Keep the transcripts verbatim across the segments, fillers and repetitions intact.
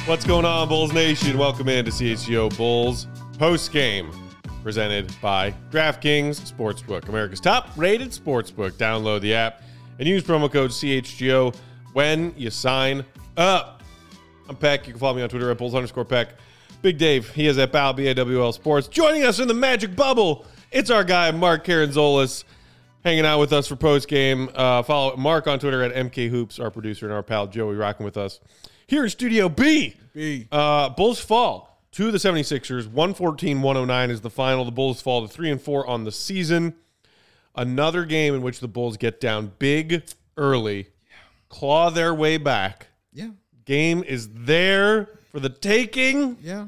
What's going on, Bulls Nation? Welcome in to C H G O Bulls post game, presented by DraftKings Sportsbook, America's top-rated sportsbook. Download the app and use promo code C H G O when you sign up. I'm Peck. You can follow me on Twitter at Bulls underscore Peck. Big Dave, he is at B A L, B A W L Sports. Joining us in the magic bubble, it's our guy, Mark Caranzolis, hanging out with us for post game. Uh, follow Mark on Twitter at M K Hoops, our producer, and our pal Joey rocking with us here in Studio B. B. Uh, Bulls fall to the seventy-sixers. one fourteen one oh nine is the final. The Bulls fall to three and four on the season. Another game in which the Bulls get down big early, claw their way back. Yeah. Game is there for the taking. Yeah.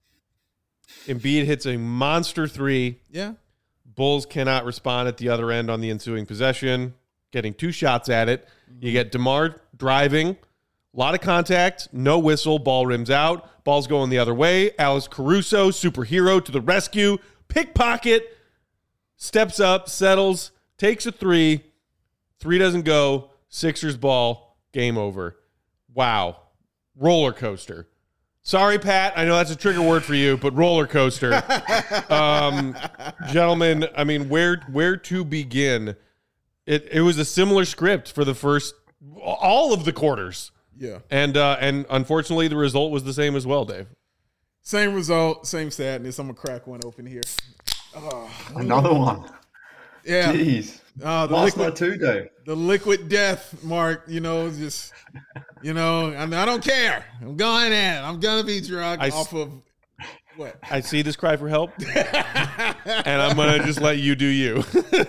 Embiid hits a monster three. Yeah. Bulls cannot respond at the other end on the ensuing possession, getting two shots at it. Mm-hmm. You get DeMar driving. A lot of contact, no whistle, ball rims out, ball's going the other way. Alex Caruso, superhero, to the rescue, pickpocket, steps up, settles, takes a three, three doesn't go, Sixers ball, game over. Wow. Roller coaster. Sorry, Pat, I know that's a trigger word for you, but roller coaster. um, gentlemen, I mean, where where to begin? It it was a similar script for the first, all of the quarters. Yeah. And uh, and unfortunately, the result was the same as well, Dave. Same result, same sadness. I'm going to crack one open here. Oh, Another one. Yeah. Jeez. Uh, the Last liquid, night too, Dave. The liquid death, Mark, you know, just, you know, I, I don't care. I'm going in. I'm going to be drunk I off of what? I see this cry for help, and I'm going to just let you do you.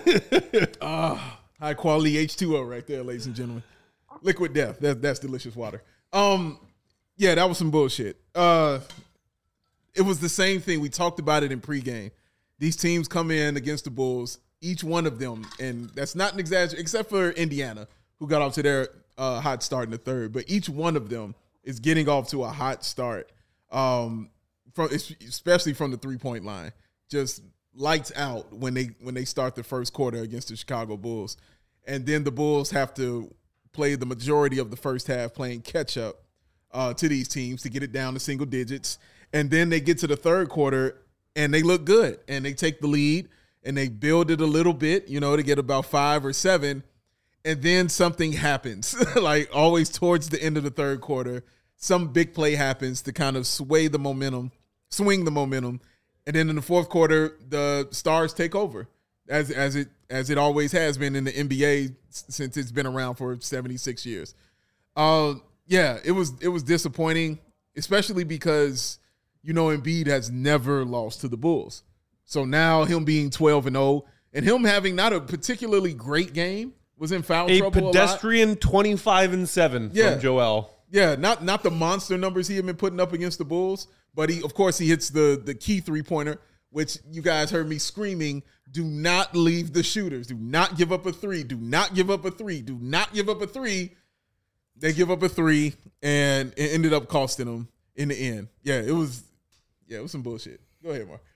uh, high quality H two O right there, ladies and gentlemen. Liquid death. That, that's delicious water. Um, yeah, that was some bullshit. Uh, it was the same thing. We talked about it in pregame. These teams come in against the Bulls, each one of them, and that's not an exaggeration, except for Indiana, who got off to their uh, hot start in the third. But each one of them is getting off to a hot start, um, from especially from the three-point line. Just lights out when they when they start the first quarter against the Chicago Bulls. And then the Bulls have to play the majority of the first half playing catch-up uh, to these teams to get it down to single digits. And then they get to the third quarter, and they look good. And they take the lead, and they build it a little bit, you know, to get about five or seven. And then something happens, like always towards the end of the third quarter. Some big play happens to kind of sway the momentum, swing the momentum. And then in the fourth quarter, the Stars take over, as as it as it always has been in the N B A since it's been around for seventy-six years. Uh, yeah, it was it was disappointing, especially because, you know, Embiid has never lost to the Bulls. So now him being twelve and oh and him having not a particularly great game, was in foul a trouble a pedestrian twenty-five and seven Yeah. from Joel. Yeah, not not the monster numbers he had been putting up against the Bulls, but he, of course, he hits the the key three-pointer, which you guys heard me screaming, do not leave the shooters. Do not give up a three. Do not give up a three. Do not give up a three. They give up a three, and it ended up costing them in the end. Yeah, it was yeah, it was some bullshit. Go ahead, Mark.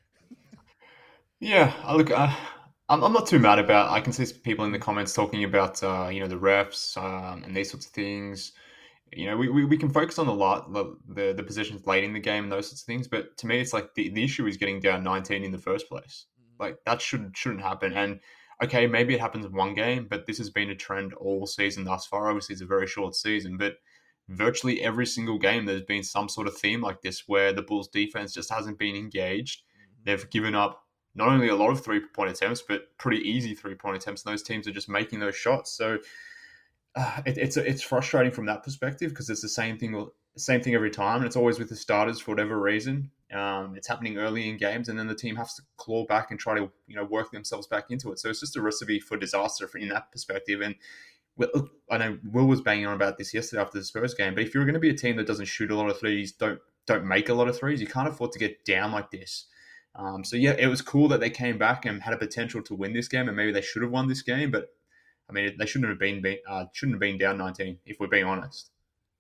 Yeah, I look, uh, I'm, I'm not too mad about. I can see people in the comments talking about, uh, you know, the refs um, and these sorts of things. You know, we, we, we can focus on the lot, the, the the positions late in the game and those sorts of things. But to me, it's like the, the issue is getting down nineteen in the first place. Like that should shouldn't happen. And okay, maybe it happens in one game, but this has been a trend all season thus far. Obviously, it's a very short season, but virtually every single game there's been some sort of theme like this where the Bulls defense just hasn't been engaged. They've given up not only a lot of three-point attempts, but pretty easy three-point attempts, and those teams are just making those shots. So uh, it, it's it's frustrating from that perspective because it's the same thing, same thing every time, and it's always with the starters for whatever reason. Um, it's happening early in games, and then the team has to claw back and try to you know work themselves back into it. So it's just a recipe for disaster for, in that perspective. And well, I know Will was banging on about this yesterday after the Spurs game, but if you're going to be a team that doesn't shoot a lot of threes, don't don't make a lot of threes, you can't afford to get down like this. Um, so yeah, it was cool that they came back and had a potential to win this game, and maybe they should have won this game. But I mean, they shouldn't have been uh, shouldn't have been down nineteen if we're being honest.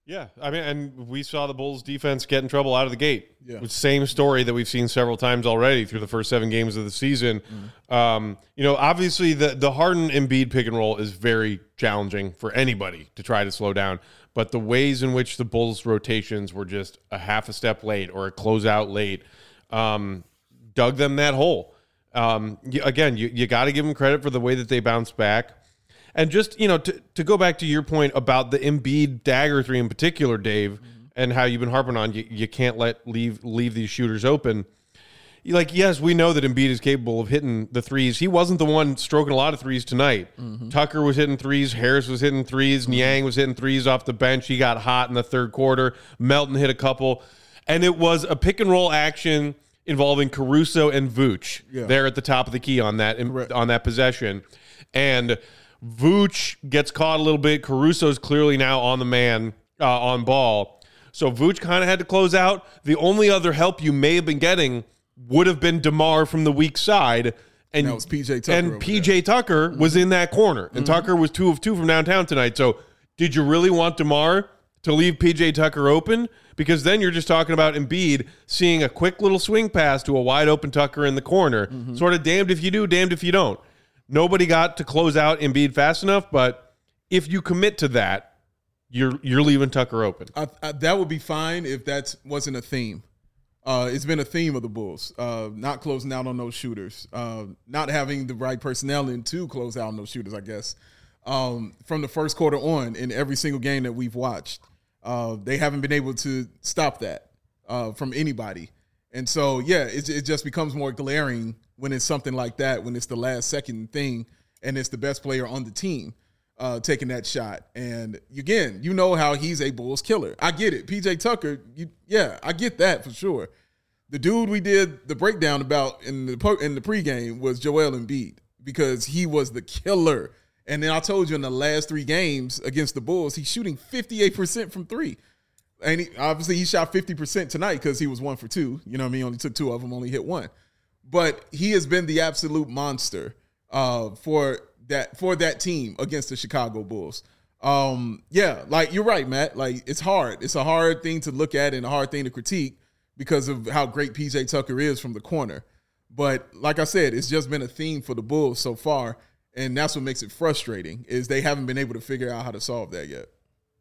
Yeah, I mean, and we saw the Bulls defense get in trouble out of the gate. Yeah. Same story that we've seen several times already through the first seven games of the season. Mm. Um, you know, obviously the the Harden Embiid pick and roll is very challenging for anybody to try to slow down. But the ways in which the Bulls rotations were just a half a step late or a closeout late um, dug them that hole. Um, you, again, you, you got to give them credit for the way that they bounced back. And just, you know, to, to go back to your point about the Embiid dagger three in particular, Dave, mm-hmm. and how you've been harping on, you, you can't let leave leave these shooters open. Like, yes, we know that Embiid is capable of hitting the threes. He wasn't the one stroking a lot of threes tonight. Mm-hmm. Tucker was hitting threes. Harris was hitting threes. Mm-hmm. Niang was hitting threes off the bench. He got hot in the third quarter. Melton hit a couple. And it was a pick and roll action involving Caruso and Vooch yeah. there at the top of the key on that right. on that possession. And Vooch gets caught a little bit. Caruso's clearly now on the man, uh, on ball. So Vooch kind of had to close out. The only other help you may have been getting would have been DeMar from the weak side. And that was P J Tucker. And P J there. Tucker mm-hmm. was in that corner. And mm-hmm. Tucker was two of two from downtown tonight. So did you really want DeMar to leave P J Tucker open? Because then you're just talking about Embiid seeing a quick little swing pass to a wide open Tucker in the corner. Mm-hmm. Sort of damned if you do, damned if you don't. Nobody got to close out Embiid fast enough, but if you commit to that, you're you're leaving Tucker open. I, I, that would be fine if that wasn't a theme. Uh, it's been a theme of the Bulls, uh, not closing out on those shooters, uh, not having the right personnel in to close out on those shooters, I guess. Um, from the first quarter on, in every single game that we've watched, uh, they haven't been able to stop that uh, from anybody. And so, yeah, it, it just becomes more glaring when it's something like that, when it's the last second thing and it's the best player on the team uh, taking that shot. And again, you know how he's a Bulls killer. I get it. P J Tucker, you, yeah, I get that for sure. The dude we did the breakdown about in the in the pregame was Joel Embiid because he was the killer. And then I told you in the last three games against the Bulls, he's shooting fifty-eight percent from three. And he, obviously he shot fifty percent tonight because he was one for two. You know what I mean? Only took two of them, only hit one. But he has been the absolute monster uh, for that for that team against the Chicago Bulls. Um, yeah, like you're right, Matt. Like it's hard. It's a hard thing to look at and a hard thing to critique because of how great P J Tucker is from the corner. But like I said, it's just been a theme for the Bulls so far, and that's what makes it frustrating is they haven't been able to figure out how to solve that yet.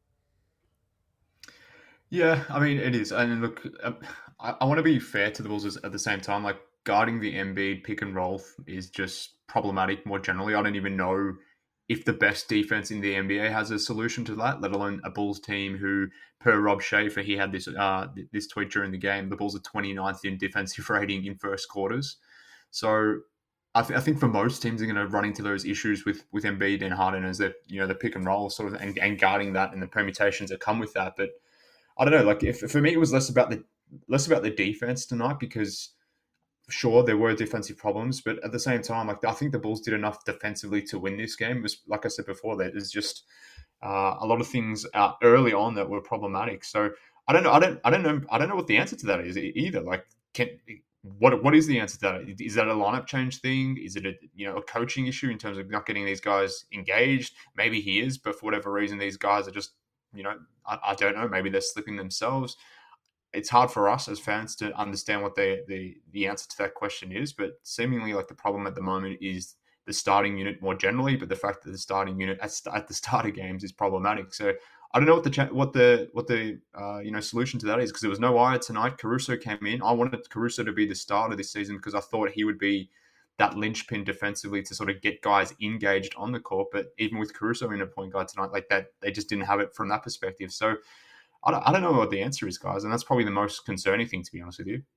Yeah, I mean, it is. And look, I, I want to be fair to the Bulls at the same time. Like, guarding the Embiid pick and roll is just problematic more generally. I don't even know if the best defense in the N B A has a solution to that, let alone a Bulls team who, per Rob Schaefer, he had this uh, this tweet during the game, the Bulls are twenty-ninth in defensive rating in first quarters. So I, th- I think for most teams are going to run into those issues with, with Embiid and Harden as the, you know, the pick and roll sort of and, and guarding that and the permutations that come with that. But I don't know, like if for me it was less about the less about the defense tonight because sure, there were defensive problems, but at the same time, like I think the Bulls did enough defensively to win this game. It was, like I said before, that there's just uh, a lot of things uh, early on that were problematic. So I don't know. I don't. I don't know. I don't know what the answer to that is either. Like, can what what is the answer to that? Is that a lineup change thing? Is it a you know a coaching issue in terms of not getting these guys engaged? Maybe he is, but for whatever reason, these guys are just you know I, I don't know. Maybe they're slipping themselves. It's hard for us as fans to understand what the, the the answer to that question is, but seemingly like the problem at the moment is the starting unit more generally, but the fact that the starting unit at, at the start of games is problematic. So I don't know what the what the what the uh, you know solution to that is because there was no wire tonight. Caruso came in. I wanted Caruso to be the starter this season because I thought he would be that linchpin defensively to sort of get guys engaged on the court. But even with Caruso in a point guard tonight, like that, they just didn't have it from that perspective. So I don't, I don't know what the answer is, guys, and that's probably the most concerning thing, to be honest with you.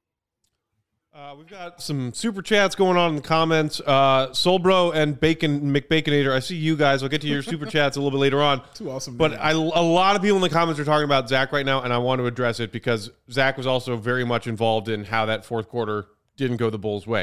Uh, we've got some super chats going on in the comments. Uh, Soulbro and Bacon McBaconator, I see you guys. I'll get to your super chats a little bit later on. Too awesome. But I, a lot of people in the comments are talking about Zach right now, and I want to address it because Zach was also very much involved in how that fourth quarter didn't go the Bulls' way.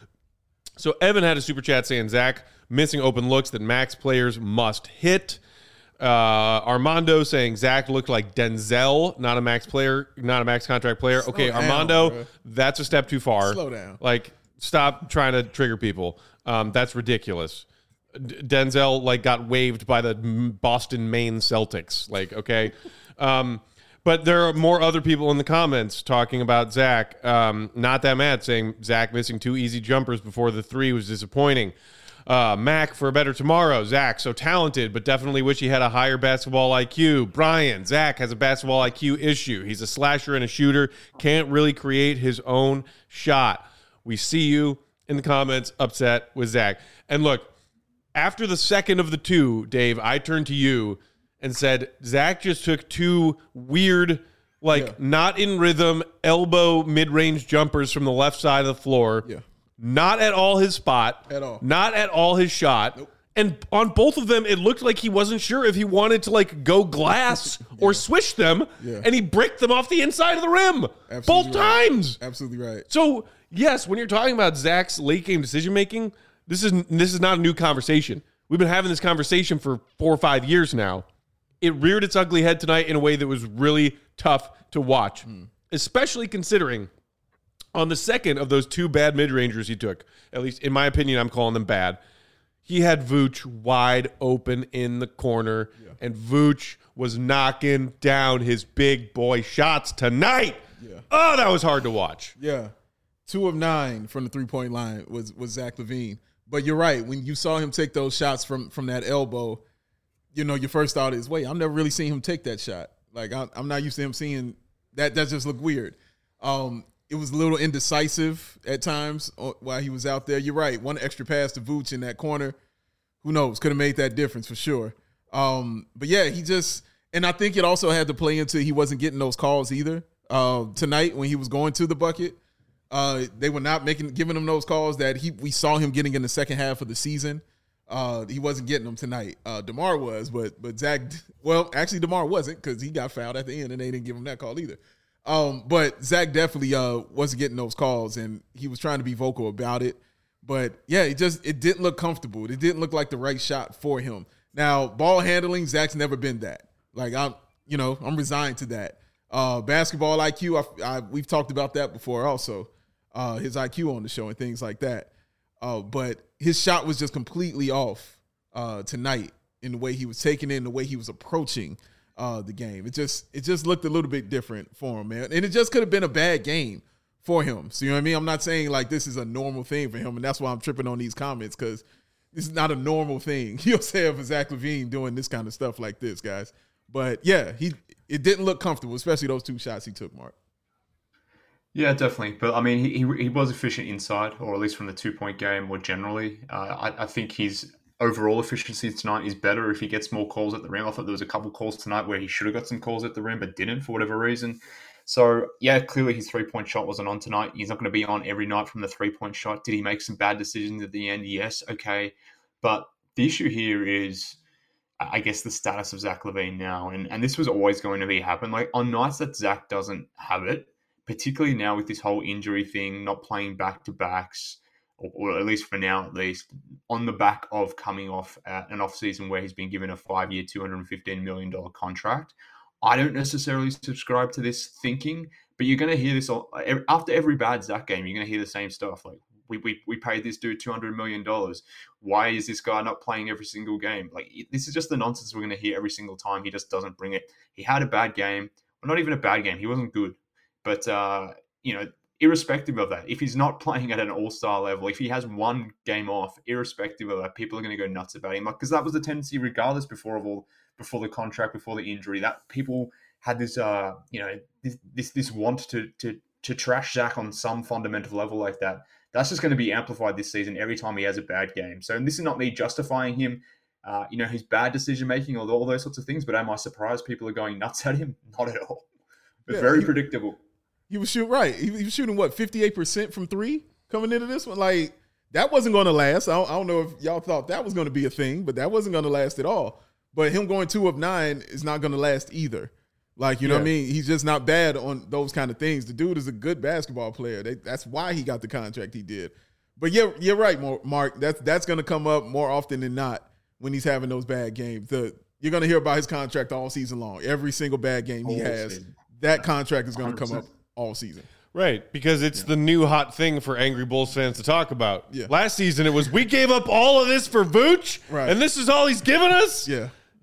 So Evan had a super chat saying, Zach, missing open looks that Max players must hit. Uh, Armando saying Zach looked like Denzel, not a max player, not a max contract player. Slow okay, down, Armando, bro. That's a step too far. Slow down. Like, stop trying to trigger people. Um, that's ridiculous. D- Denzel like got waived by the Boston, Maine Celtics. Like, okay. Um, but there are more other people in the comments talking about Zach. Um, not that mad, saying Zach missing two easy jumpers before the three was disappointing. Uh, Mac for a better tomorrow. Zach, so talented, but definitely wish he had a higher basketball I Q. Brian, Zach has a basketball I Q issue. He's a slasher and a shooter. Can't really create his own shot. We see you in the comments upset with Zach. And look, after the second of the two, Dave, I turned to you and said, Zach just took two weird, like Yeah. not in rhythm, elbow mid-range jumpers from the left side of the floor. Yeah. Not at all his spot. At all. Not at all his shot. Nope. And on both of them, it looked like he wasn't sure if he wanted to like go glass or swish them. Yeah. And he bricked them off the inside of the rim. Absolutely both right. times. Absolutely right. So, yes, when you're talking about Zach's late game decision making, this is this is not a new conversation. We've been having this conversation for four or five years now. It reared its ugly head tonight in a way that was really tough to watch, mm. especially considering on the second of those two bad mid-rangers he took, at least in my opinion, I'm calling them bad, he had Vooch wide open in the corner, yeah. and Vooch was knocking down his big boy shots tonight. Yeah. Oh, that was hard to watch. Yeah. Two of nine from the three-point line was was Zach LaVine. But you're right. When you saw him take those shots from, from that elbow, you know, your first thought is, wait, I've never really seen him take that shot. Like, I, I'm not used to him seeing that. That just looked weird. Um, It was a little indecisive at times while he was out there. You're right. One extra pass to Vooch in that corner, who knows, could have made that difference for sure. Um, but, yeah, he just – and I think it also had to play into he wasn't getting those calls either. Uh, tonight when he was going to the bucket, uh, they were not making giving him those calls that he we saw him getting in the second half of the season. Uh, he wasn't getting them tonight. Uh, DeMar was, but but Zach – well, actually DeMar wasn't because he got fouled at the end and they didn't give him that call either. Um, but Zach definitely uh, wasn't getting those calls, and he was trying to be vocal about it. But yeah, it just it didn't look comfortable. It didn't look like the right shot for him. Now, ball handling, Zach's never been that. Like I'm, you know, I'm resigned to that. Uh, basketball I Q, I, I, we've talked about that before, also uh, his I Q on the show and things like that. Uh, but his shot was just completely off uh, tonight in the way he was taking it, in the way he was approaching Uh, the game. It just it just looked a little bit different for him, man. And it just could have been a bad game for him. So you know what I mean? I'm not saying like this is a normal thing for him, and that's why I'm tripping on these comments, because this is not a normal thing you'll say for Zach LaVine doing this kind of stuff like this, guys. But yeah, he it didn't look comfortable, especially those two shots he took, Mark. Yeah, definitely. But I mean, he he, he was efficient inside, or at least from the two point game more generally. Uh, I, I think he's overall efficiency tonight is better if he gets more calls at the rim. I thought there was a couple calls tonight where he should have got some calls at the rim, but didn't for whatever reason. So, yeah, clearly his three-point shot wasn't on tonight. He's not going to be on every night from the three-point shot. Did he make some bad decisions at the end? Yes, okay. But the issue here is, I guess, the status of Zach LaVine now. And, and this was always going to be happen. Like, on nights that Zach doesn't have it, particularly now with this whole injury thing, not playing back-to-backs, or, or at least for now, at least, on the back of coming off at an offseason where he's been given a five-year, two hundred fifteen million dollars contract. I don't necessarily subscribe to this thinking, but you're going to hear this all, after every bad Zach game. You're going to hear the same stuff. Like, we we we paid this dude two hundred million dollars. Why is this guy not playing every single game? Like, this is just the nonsense we're going to hear every single time. He just doesn't bring it. He had a bad game. Well, not even a bad game. He wasn't good. But, uh, you know, irrespective of that, if he's not playing at an all-star level, if he has one game off, irrespective of that, people are going to go nuts about him. Like, because that was the tendency, regardless, before of all, before the contract, before the injury, that people had this, uh, you know, this this, this want to to to trash Zach on some fundamental level like that. That's just going to be amplified this season every time he has a bad game. So, and this is not me justifying him, uh, you know, his bad decision making or all those sorts of things. But am I surprised people are going nuts at him? Not at all. It's yeah, very he, predictable. He was shooting right. He, he was shooting what, fifty-eight percent from three coming into this one. Like, that wasn't going to last. I don't, I don't know if y'all thought that was going to be a thing, but that wasn't going to last at all. But him going two of nine is not going to last either. Like, you know yeah. what I mean? He's just not bad on those kind of things. The dude is a good basketball player. They, that's why he got the contract he did. But yeah, you're right, Mark. That's that's going to come up more often than not when he's having those bad games. The, you're going to hear about his contract all season long. Every single bad game he all has, season. That contract is going to come up all season. Right, because it's yeah. the new hot thing for Angry Bulls fans to talk about. Yeah. Last season, it was, we gave up all of this for Vooch, right. and this is all he's given us? Yeah.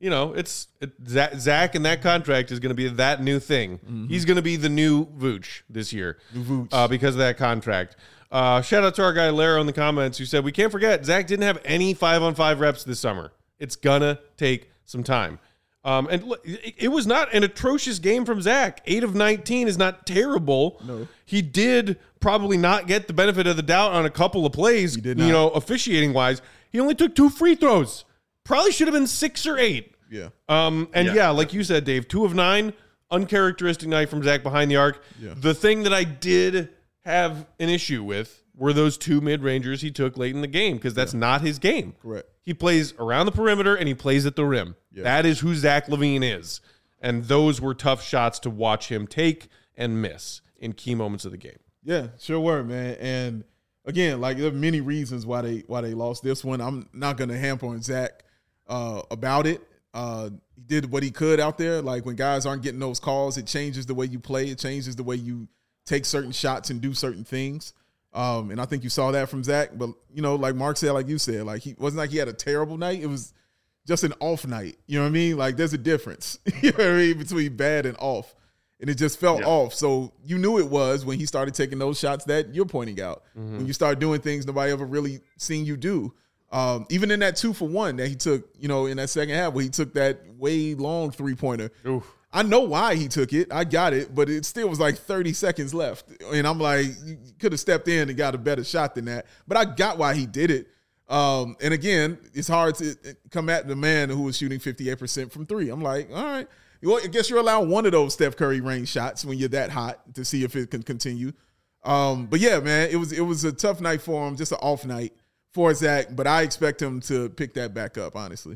you know, it's it, Zach, Zach and that contract is going to be that new thing. Mm-hmm. He's going to be the new Vooch this year new Vooch. Uh, because of that contract. Uh, shout out to our guy Lara in the comments who said, we can't forget, Zach didn't have any five-on-five reps this summer. It's going to take some time. Um, and look, it, it was not an atrocious game from Zach. eight of nineteen is not terrible. No. He did probably not get the benefit of the doubt on a couple of plays, He did not. you know, officiating-wise. He only took two free throws. Probably should have been six or eight. Yeah. Um, and yeah. Yeah. yeah, like you said, Dave, two of nine, uncharacteristic night from Zach behind the arc. Yeah. The thing that I did have an issue with were those two mid-rangers he took late in the game because that's yeah. not his game. Correct. He plays around the perimeter and he plays at the rim. Yeah. That is who Zach LaVine is. And those were tough shots to watch him take and miss in key moments of the game. Yeah, sure were, man. And again, like there are many reasons why they why they lost this one. I'm not going to hamper on Zach uh, about it. Uh, he did what he could out there. Like when guys aren't getting those calls, it changes the way you play. It changes the way you take certain shots and do certain things. Um, and I think you saw that from Zach. But, you know, like Mark said, like you said, like he wasn't like he had a terrible night. It was just an off night. You know what I mean? Like there's a difference, you know what I mean, between bad and off. And it just felt yeah. off. So you knew it was when he started taking those shots that you're pointing out. Mm-hmm. When you start doing things nobody ever really seen you do. Um, even in that two for one that he took, you know, in that second half where he took that way long three-pointer. Oof. I know why he took it. I got it, but it still was like thirty seconds left. And I'm like, you could have stepped in and got a better shot than that. But I got why he did it. Um, and again, it's hard to come at the man who was shooting fifty-eight percent from three. I'm like, all right. Well, I guess you're allowed one of those Steph Curry range shots when you're that hot to see if it can continue. Um, but yeah, man, it was it was a tough night for him, just an off night for Zach. But I expect him to pick that back up, honestly.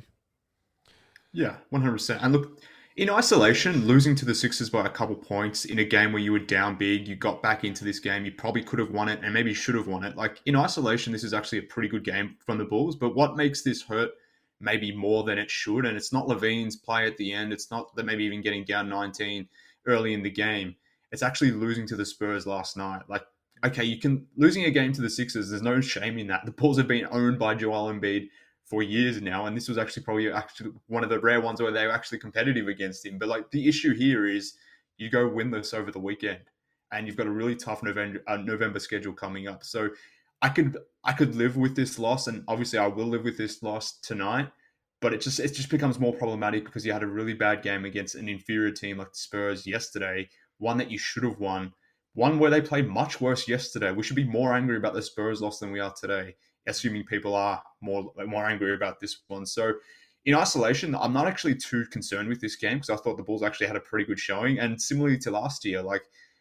Yeah, one hundred percent. And look, in isolation, losing to the Sixers by a couple points in a game where you were down big, you got back into this game, you probably could have won it and maybe should have won it. Like in isolation, this is actually a pretty good game from the Bulls. But what makes this hurt maybe more than it should, and it's not LaVine's play at the end, it's not that maybe even getting down nineteen early in the game, it's actually losing to the Spurs last night. Like, okay, you can losing a game to the Sixers, there's no shame in that. The Bulls have been owned by Joel Embiid for years now, and this was actually probably actually one of the rare ones where they were actually competitive against him. But like the issue here is you go winless over the weekend, and you've got a really tough November uh, November schedule coming up. So I could I could live with this loss, and obviously I will live with this loss tonight. But it just it just becomes more problematic because you had a really bad game against an inferior team like the Spurs yesterday, one that you should have won, one where they played much worse yesterday. We should be more angry about the Spurs loss than we are today, assuming people are more more angry about this one. So in isolation, I'm not actually too concerned with this game because I thought the Bulls actually had a pretty good showing. And similarly to last year, like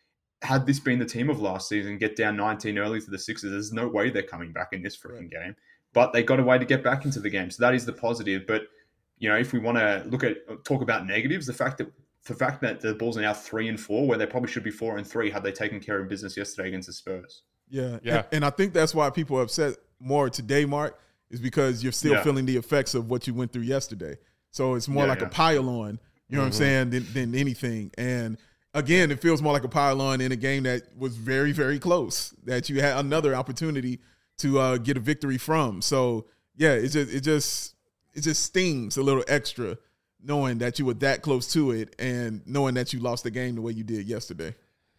had this been the team of last season, get down nineteen early to the Sixers, there's no way they're coming back in this freaking game. But they got a way to get back into the game. So that is the positive. But, you know, if we want to look at, talk about negatives, the fact that the fact that the Bulls are now three and four, where they probably should be four and three had they taken care of business yesterday against the Spurs. Yeah. Yeah. And, and I think that's why people are upset more today, Mark, is because you're still Yeah. feeling the effects of what you went through yesterday. So it's more Yeah, like yeah. a pile on, you know what I'm saying, than, than anything. And again, it feels more like a pile on in a game that was very, very close, that you had another opportunity to uh, get a victory from. So yeah, it just it just it just stings a little extra knowing that you were that close to it and knowing that you lost the game the way you did yesterday.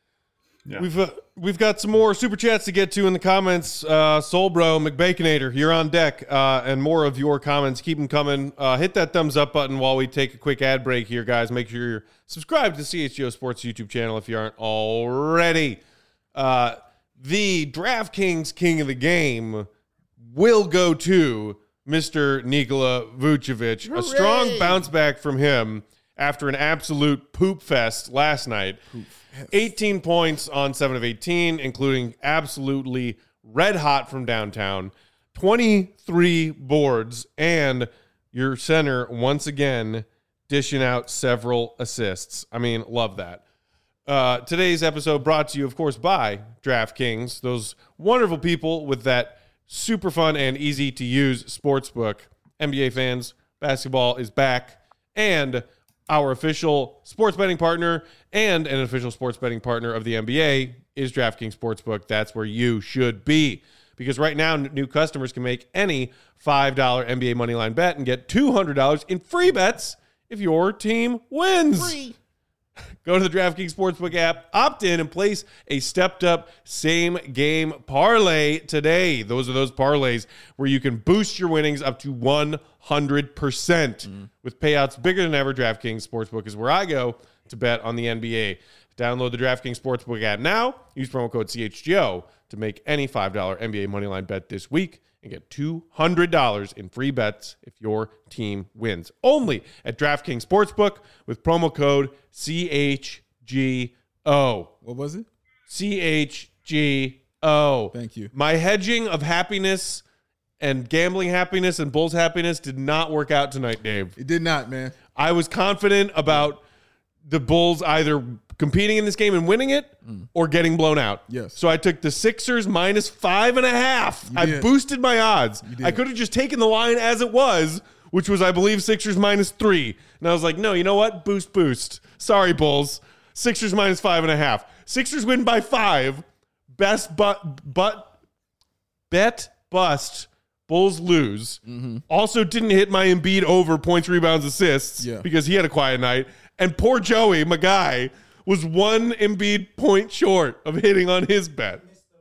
Yeah. We've uh, we've got some more super chats to get to in the comments. Uh, Soul Bro, McBaconator, you're on deck, uh, and more of your comments. Keep them coming. Uh, hit that thumbs up button while we take a quick ad break here, guys. Make sure you're subscribed to the C H G O Sports YouTube channel if you aren't already. Uh, the DraftKings King of the Game will go to Mister Nikola Vucevic. Hooray! A strong bounce back from him after an absolute poop fest last night. eighteen points on seven of eighteen, including absolutely red hot from downtown. twenty-three boards, and your center once again dishing out several assists. I mean, love that. Uh, today's episode brought to you, of course, by DraftKings, those wonderful people with that super fun and easy to use sportsbook. N B A fans, basketball is back, and our official sports betting partner and an official sports betting partner of the N B A is DraftKings Sportsbook. That's where you should be. because right now n- new customers can make any five dollar N B A moneyline bet and get two hundred dollars in free bets if your team wins. Free. Go to the DraftKings Sportsbook app, opt in, and place a stepped-up same-game parlay today. Those are those parlays where you can boost your winnings up to one hundred percent. Mm. With payouts bigger than ever, DraftKings Sportsbook is where I go to bet on the N B A. Download the DraftKings Sportsbook app now. Use promo code C H G O to make any five dollar N B A moneyline bet this week and get two hundred dollars in free bets if your team wins. Only at DraftKings Sportsbook with promo code C H G O. What was it? C H G O. Thank you. My hedging of happiness and gambling happiness and Bulls happiness did not work out tonight, Dave. It did not, man. I was confident about the Bulls either competing in this game and winning it mm. or getting blown out. Yes. So I took the Sixers minus five and a half. You I did. boosted my odds. You did. I could have just taken the line as it was, which was, I believe, Sixers minus three. And I was like, no, you know what? Boost, boost. Sorry, Bulls. Sixers minus five and a half. Sixers win by five. Best but but bet bust. Bulls lose. Mm-hmm. Also didn't hit my Embiid over points, rebounds, assists yeah. because he had a quiet night. And poor Joey, my guy, was one Embiid point short of hitting on his bet.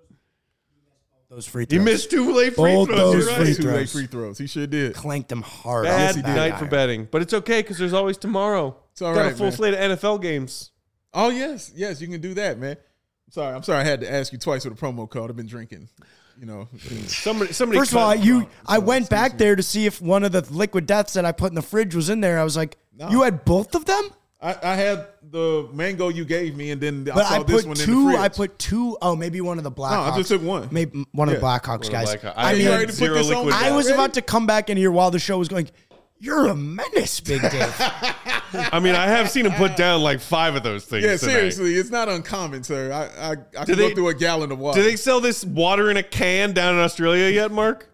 Those free throws. He missed two late free Both throws. those You're free right. Two late throws. free throws. He sure did. Clanked them hard. Bad Bad night guy. for betting. But it's okay because there's always tomorrow. It's all Got right, a full man. slate of N F L games. Oh, yes. Yes, you can do that, man. I'm sorry. I'm sorry I had to ask you twice with a promo code. I've been drinking. You know. Somebody, somebody. First of all, cut- you, I went back there to see if one of the liquid deaths that I put in the fridge was in there. I was like, No. you had both of them? I, I had the mango you gave me, and then I But saw I this put one in the two. fridge. I put two. Oh, maybe one of the Blackhawks. No, I just took one. Maybe one of the Yeah. Blackhawks One of the guys. Blackhawks. I I mean, had ready to put zero this on? liquid I death. was Ready? about to come back in here while the show was going. You're a menace, Big Dave. I mean, I have seen him put down like five of those things. Yeah, tonight. seriously, it's not uncommon, sir. I I, I can they- go through a gallon of water. Do they sell this water in a can down in Australia yet, Mark?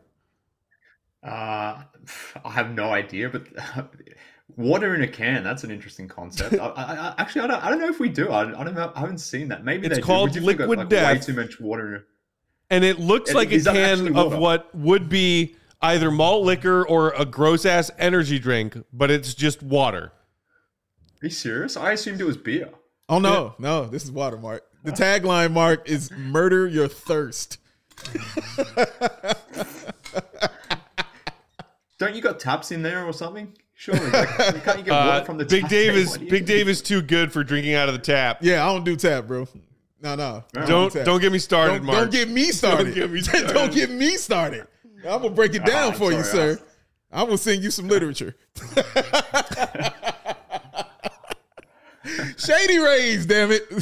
Uh, I have no idea, but water in a can, that's an interesting concept. I, I, I, actually, I don't, I don't know if we do. I, I don't know. I haven't seen that. Maybe It's they do. called We definitely got, liquid like, death. Way too much water in it. And it looks And like a is that can actually of water? what would be either malt liquor or a gross ass energy drink, but it's just water. Are you serious? I assumed it was beer. Oh no, no, this is water, Mark. The tagline, Mark, is "Murder your thirst." Don't you got taps in there or something? Surely, like, can't you get Uh, water from the Big tap? Dave is What do you- Big Dave is too good for drinking out of the tap. Yeah, I don't do tap, bro. No, no. I Don't do tap. don't get me started, don't, Mark. don't get me started. Don't get me started. Don't get me started. I'm gonna break it down Ah, for you, sorry, sir. I'm gonna send you some literature. Shady Rays, damn it.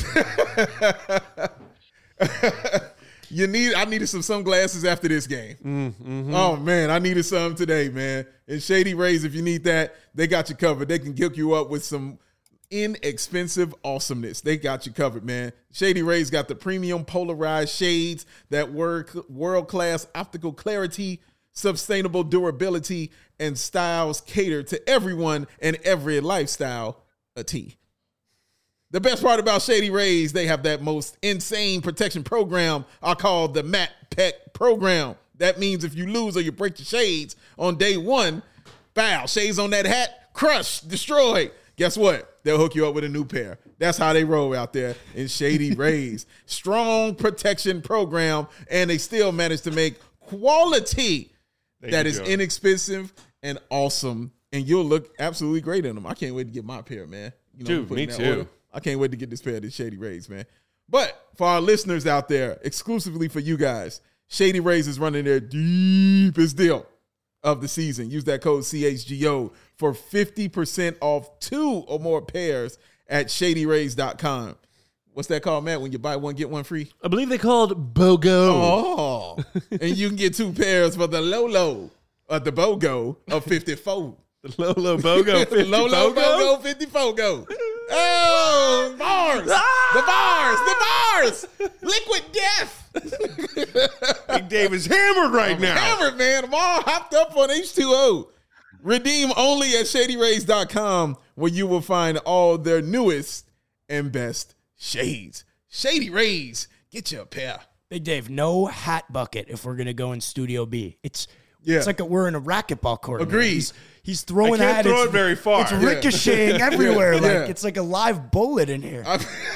You need. I needed some sunglasses after this game. Mm, mm-hmm. Oh man, I needed some today, man. And Shady Rays, if you need that, they got you covered. They can hook you up with some inexpensive awesomeness. They got you covered, man. Shady Rays got the premium polarized shades that work world-class optical clarity, sustainable durability, and styles cater to everyone and every lifestyle. A T. The best part about Shady Rays, they have that most insane protection program I call the Matte Pet program. That means if you lose or you break your shades on day one, foul, shades on that hat, crush, destroy. Guess what? They'll hook you up with a new pair. That's how they roll out there in Shady Rays. Strong protection program, and they still manage to make quality Thank that you, is Joey. inexpensive and awesome, and you'll look absolutely great in them. I can't wait to get my pair, man. You know, Dude, put me in that too. order. I can't wait to get this pair of these Shady Rays, man. But for our listeners out there, exclusively for you guys, Shady Rays is running their deepest deal of the season. Use that code C H G O for fifty percent off two or more pairs at shady rays dot com. What's that called, Matt? When you buy one, get one free? I believe they called BOGO. Oh. And you can get two pairs for the Lolo, or the BOGO of fifty-four. The Lolo BOGO. fifty Lolo BOGO? BOGO fifty-four go. Oh, bars. Ah! The bars. The bars. Liquid death. Big Dave is hammered right I'm now. hammered, man. I'm all hopped up on H two O. Redeem only at shady rays dot com, where you will find all their newest and best shades. Shady Rays, get you a pair. Big Dave, no hat bucket if we're gonna go in Studio B. It's Yeah. it's like a, we're in a racquetball court. man. Agreed. He's, he's throwing I can't at throw it's, it very far. It's Yeah. ricocheting everywhere. Yeah. Like Yeah. it's like a live bullet in here.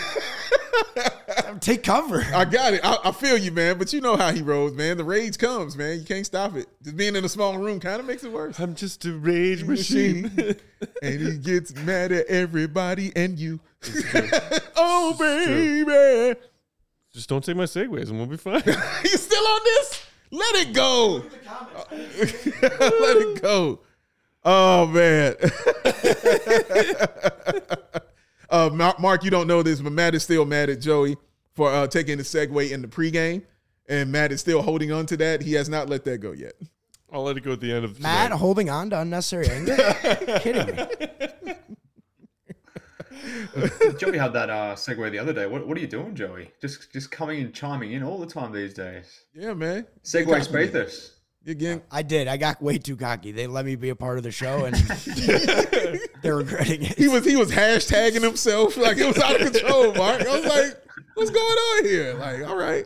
Take cover. I got it. I, I feel you, man. But you know how he rolls, man. The rage comes, man. You can't stop it. Just being in a small room kind of makes it worse. I'm just a rage machine. And he gets mad at everybody and you. Oh, baby. Just don't take my segues and we'll be fine. You still on this? Let it go. Let it go. Oh, man. uh, Mark, Mark, you don't know this, but Matt is still mad at Joey for uh, taking the segue in the pregame. And Matt is still holding on to that. He has not let that go yet. I'll let it go at the end of the Matt tonight. holding on to unnecessary anger? Kidding me. Joey had that uh, segue the other day. What, what are you doing, Joey? Just just coming and chiming in all the time these days. Yeah, man. Segue Spathis. Again, I did. I got way too cocky. They let me be a part of the show, and they're regretting it. he was he was hashtagging himself like it was out of control, Mark. I was like, what's going on here? Like, all right.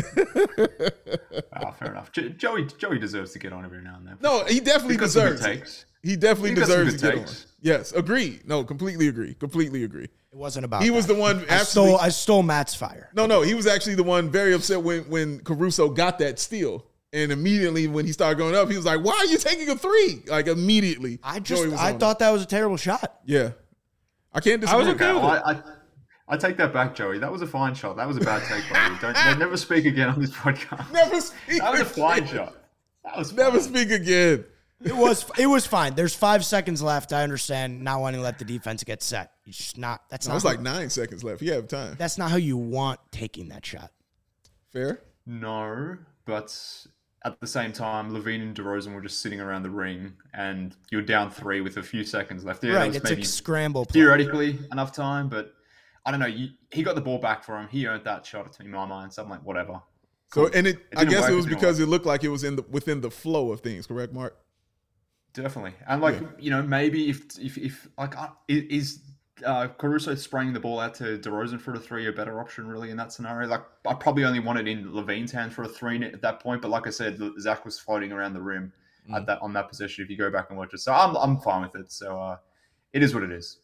Oh, fair enough. Jo- Joey Joey deserves to get on every now and then. No, he definitely He's got some good deserves it. takes. He definitely He's got some deserves to good get on. takes. Yes, agree. No, completely agree. Completely agree. It wasn't about. He that. was the one I absolutely. stole. I stole Matt's fire. No, no, he was actually the one very upset when when Caruso got that steal. And immediately when he started going up, he was like, "Why are you taking a three?" Like immediately. I just. Joey was I on thought that was a terrible shot. it. Yeah. I can't I was disagree. okay with I, I, I take that back, Joey. That was a fine shot. That was a bad take by you. Don't never speak again on this podcast. Never speak. That was a again. fine shot. That was Never fine. speak again. It was. It was fine. There's five seconds left. I understand not wanting to let the defense get set. It's just not. That's No, not. it's like nine seconds left. You have time. That's not how you want taking that shot. Fair. No, but at the same time, Levine and DeRozan were just sitting around the ring, and you're down three with a few seconds left. Yeah, that Right. was It's maybe a scramble play. theoretically enough time, but I don't know. You, he got the ball back for him. He earned that shot in my mind. So I'm like, whatever. So and it, It I didn't guess work, it it was didn't because work. it looked like it was in the within the flow of things, correct, Mark? Definitely, and like Yeah. you know, maybe if if if like uh, is uh, Caruso spraying the ball out to DeRozan for a three a better option really in that scenario? Like I probably only wanted in Levine's hand for a three at that point, but like I said, Zach was floating around the rim Mm. at that on that position. If you go back and watch it, so I'm I'm fine with it. So uh, it is what it is.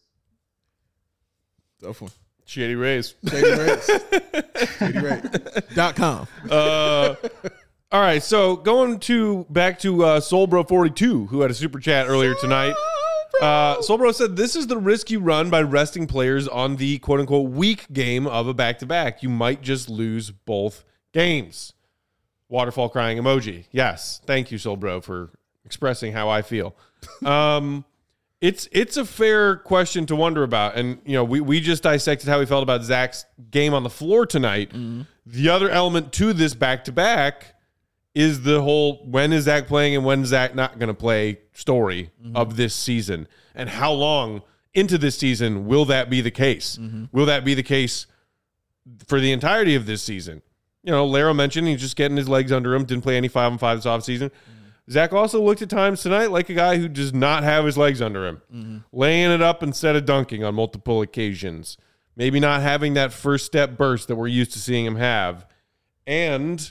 Tough one. Shady Rays. Shady Rays. Shady Rays. Dot com. Uh, all right, so going to back to uh, Soulbro forty-two, who had a super chat earlier tonight. Uh, Soulbro said, "This is the risk you run by resting players on the quote unquote weak game of a back to back. You might just lose both games." Waterfall crying emoji. Yes, thank you, Soulbro, for expressing how I feel. Um, it's it's a fair question to wonder about, and you know we we just dissected how we felt about Zach's game on the floor tonight. The other element to this back to back is the whole when is Zach playing and when is Zach not going to play story of this season, and how long into this season will that be the case? Will that be the case for the entirety of this season? You know, Laro mentioned he's just getting his legs under him, didn't play any five on five this offseason. Mm-hmm. Zach also looked at times tonight like a guy who does not have his legs under him, mm-hmm. laying it up instead of dunking on multiple occasions, maybe not having that first step burst that we're used to seeing him have. And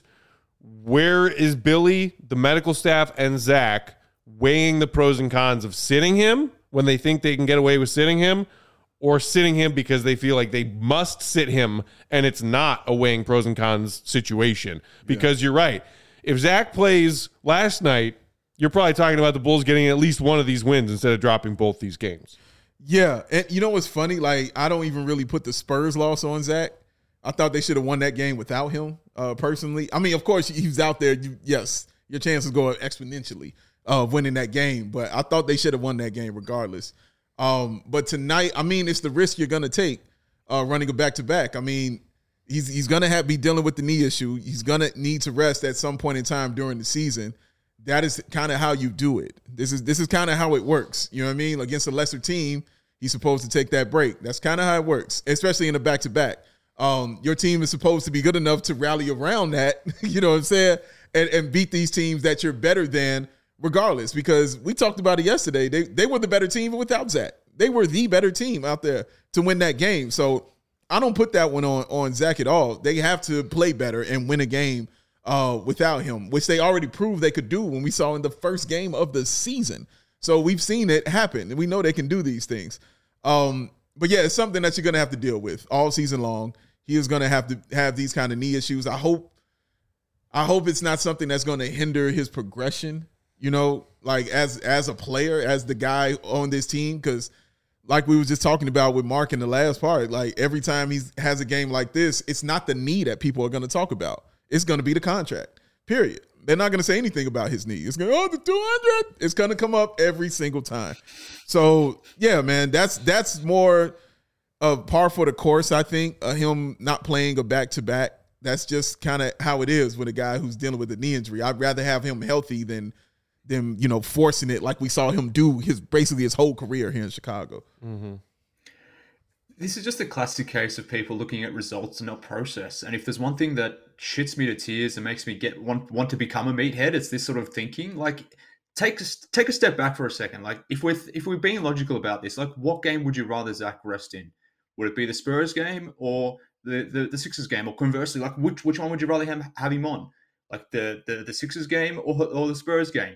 where is Billy, the medical staff, and Zach weighing the pros and cons of sitting him when they think they can get away with sitting him, or sitting him because they feel like they must sit him and it's not a weighing pros and cons situation? Because yeah. You're right. If Zach plays last night, you're probably talking about the Bulls getting at least one of these wins instead of dropping both these games. Yeah, and you know what's funny? Like, I don't even really put the Spurs loss on Zach. I thought they should have won that game without him, uh, personally. I mean, of course, he's out there. You, yes, your chances go up exponentially of winning that game, but I thought they should have won that game regardless. Um, but tonight, I mean, it's the risk you're going to take uh, running a back-to-back. I mean, he's he's going to have be dealing with the knee issue. He's going to need to rest at some point in time during the season. That is kind of how you do it. This is this is kind of how it works. You know what I mean? Against a lesser team, he's supposed to take that break. That's kind of how it works, especially in a back-to-back. Um, your team is supposed to be good enough to rally around that, you know what I'm saying, and, and beat these teams that you're better than regardless, because we talked about it yesterday. They they were the better team without Zach. They were the better team out there to win that game. So I don't put that one on, on Zach at all. They have to play better and win a game uh, without him, which they already proved they could do when we saw in the first game of the season. So we've seen it happen, and we know they can do these things. Um, but, yeah, it's something that you're going to have to deal with all season long. He is going to have to have these kind of knee issues. I hope I hope it's not something that's going to hinder his progression, you know, like as as a player, as the guy on this team, because like we were just talking about with Mark in the last part, like every time he has a game like this, it's not the knee that people are going to talk about. It's going to be the contract, period. They're not going to say anything about his knee. It's going to, oh, the two hundred. It's going to come up every single time. So, yeah, man, that's that's more of par for the course, I think, uh, him not playing a back-to-back. That's just kind of how it is with a guy who's dealing with a knee injury. I'd rather have him healthy than, than you know, forcing it like we saw him do his basically his whole career here in Chicago. Mm-hmm. This is just a classic case of people looking at results and not process. And if there's one thing that shits me to tears and makes me get want want to become a meathead, it's this sort of thinking. Like, take a, take a step back for a second. Like, if we're if we're being logical about this, like, what game would you rather Zach rest in? Would it be the Spurs game or the the, the Sixers game? Or conversely, like, which which one would you rather have, have him on? Like the the, the Sixers game or or the Spurs game?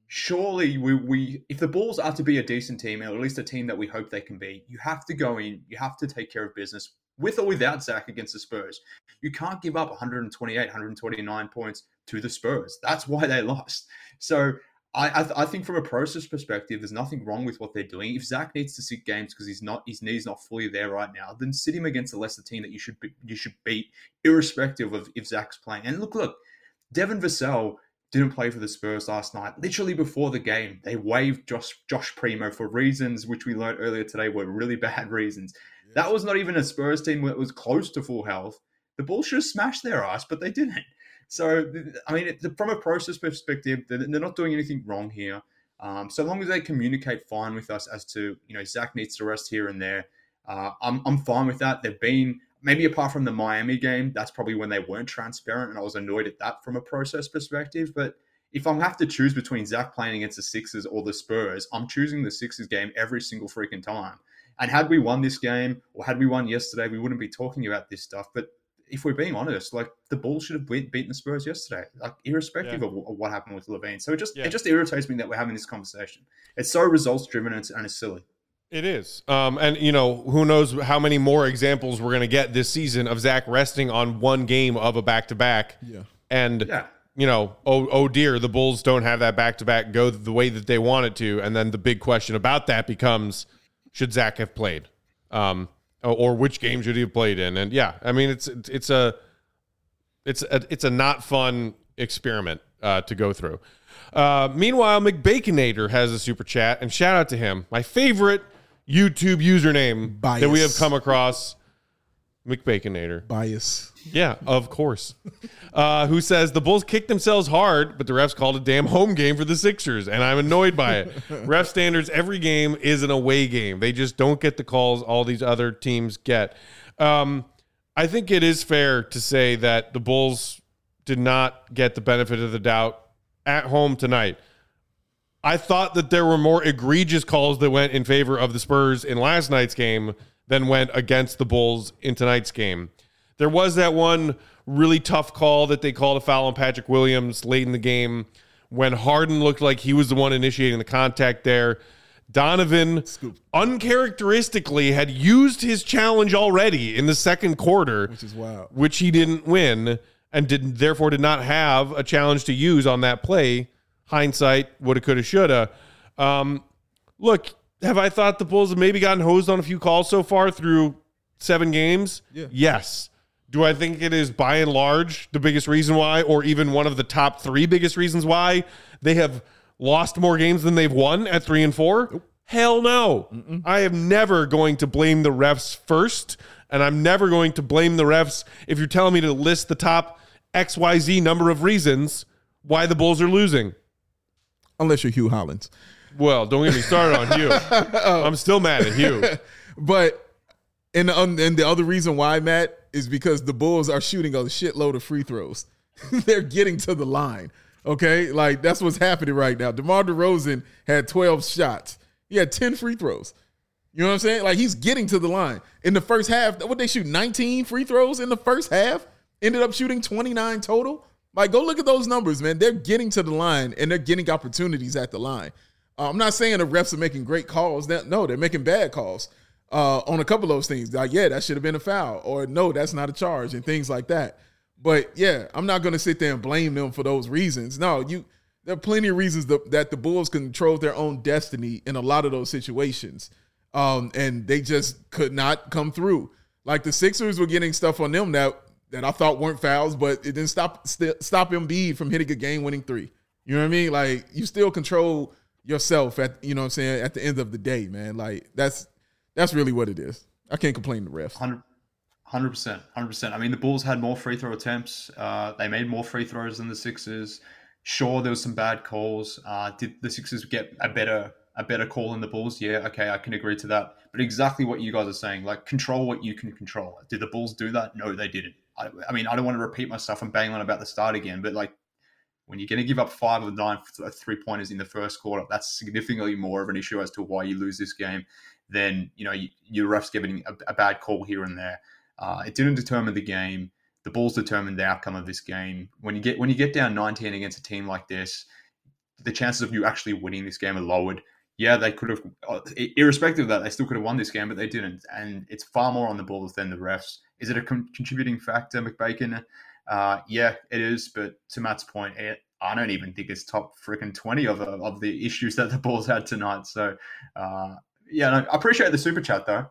Surely we, we if the Bulls are to be a decent team, or at least a team that we hope they can be, you have to go in, you have to take care of business with or without Zach against the Spurs. You can't give up one twenty-eight, one twenty-nine points to the Spurs. That's why they lost. So I I, th- I think from a process perspective, there's nothing wrong with what they're doing. If Zach needs to sit games because he's not his knee's not fully there right now, then sit him against a lesser team that you should be, you should beat, irrespective of if Zach's playing. And look, look, Devin Vassell didn't play for the Spurs last night. Literally before the game, they waived Josh, Josh Primo for reasons which we learned earlier today were really bad reasons. Yeah. That was not even a Spurs team that was close to full health. The Bulls should have smashed their ass, but they didn't. So, I mean, it, from a process perspective, they're, they're not doing anything wrong here. Um, so long as they communicate fine with us as to, you know, Zach needs to rest here and there, uh, I'm, I'm fine with that. They've been... Maybe apart from the Miami game, that's probably when they weren't transparent, and I was annoyed at that from a process perspective. But if I have to choose between Zach playing against the Sixers or the Spurs, I'm choosing the Sixers game every single freaking time. And had we won this game, or had we won yesterday, we wouldn't be talking about this stuff. But if we're being honest, like, the Bulls should have beaten the Spurs yesterday, like, irrespective yeah. of, of what happened with LaVine. So it just yeah. it just irritates me that we're having this conversation. It's so results driven and it's, and it's silly. It is. Um, and, you know, who knows how many more examples we're going to get this season of Zach resting on one game of a back-to-back. Yeah. And, yeah. you know, oh, oh dear, the Bulls don't have that back-to-back go the way that they want it to. And then the big question about that becomes, should Zach have played? Um, or which game should he have played in? And, yeah, I mean, it's it's a it's a, it's a not fun experiment uh, to go through. Uh, meanwhile, McBaconator has a super chat, and shout out to him. My favorite YouTube username Bias. that we have come across, McBaconator. Bias. Yeah, of course. Uh, who says, the Bulls kicked themselves hard, but the refs called a damn home game for the Sixers, and I'm annoyed by it. Ref standards, every game is an away game. They just don't get the calls all these other teams get. Um, I think it is fair to say that the Bulls did not get the benefit of the doubt at home tonight. I thought that there were more egregious calls that went in favor of the Spurs in last night's game than went against the Bulls in tonight's game. There was that one really tough call that they called a foul on Patrick Williams late in the game when Harden looked like he was the one initiating the contact there. Donovan Scoop. uncharacteristically had used his challenge already in the second quarter, which is wild, which he didn't win and did therefore did not have a challenge to use on that play. Hindsight, woulda, coulda, shoulda. Um, look, have I thought the Bulls have maybe gotten hosed on a few calls so far through seven games? Yeah. Yes. Do I think it is by and large the biggest reason why, or even one of the top three biggest reasons why they have lost more games than they've won at three and four? Nope. Hell no. Mm-mm. I am never going to blame the refs first, and I'm never going to blame the refs if you're telling me to list the top X Y Z number of reasons why the Bulls are losing. Unless you're Hugh Hollins. Well, don't get me started on Hugh. I'm still mad at Hugh. But and the, and the other reason why, Matt, is because the Bulls are shooting a shitload of free throws. They're getting to the line. Okay? Like, that's what's happening right now. DeMar DeRozan had twelve shots. He had ten free throws. You know what I'm saying? Like, he's getting to the line. In the first half, what they shoot, nineteen free throws in the first half? Ended up shooting twenty-nine total? Like, go look at those numbers, man. They're getting to the line, and they're getting opportunities at the line. Uh, I'm not saying the refs are making great calls. They're, no, they're making bad calls uh, on a couple of those things. Like, yeah, that should have been a foul. Or, no, that's not a charge, and things like that. But, yeah, I'm not going to sit there and blame them for those reasons. No, you. There are plenty of reasons that, that the Bulls control their own destiny in a lot of those situations. Um, and they just could not come through. Like, the Sixers were getting stuff on them that that I thought weren't fouls, but it didn't stop st- stop Embiid from hitting a game-winning three. You know what I mean? Like, you still control yourself at, you know what I'm saying, at the end of the day, man. Like, that's that's really what it is. I can't complain to the refs. one hundred percent. one hundred percent. I mean, the Bulls had more free throw attempts. Uh, they made more free throws than the Sixers. Sure, there was some bad calls. Uh, did the Sixers get a better a better call than the Bulls? Yeah, okay, I can agree to that. But exactly what you guys are saying, like, control what you can control. Did the Bulls do that? No, they didn't. I, I mean, I don't want to repeat myself and bang on about the start again, but, like, when you're going to give up five of nine three-pointers in the first quarter, that's significantly more of an issue as to why you lose this game than, you know, you, your refs giving a, a bad call here and there. Uh, it didn't determine the game. The Bulls determined the outcome of this game. When you get when you get down nineteen against a team like this, the chances of you actually winning this game are lowered. Yeah, they could have, irrespective of that, they still could have won this game, but they didn't. And it's far more on the Bulls than the refs. Is it a con- contributing factor, McBacon? Uh, yeah, it is. But to Matt's point, it, I don't even think it's top freaking twenty of of the issues that the Bulls had tonight. So, uh, yeah, no, I appreciate the super chat, though.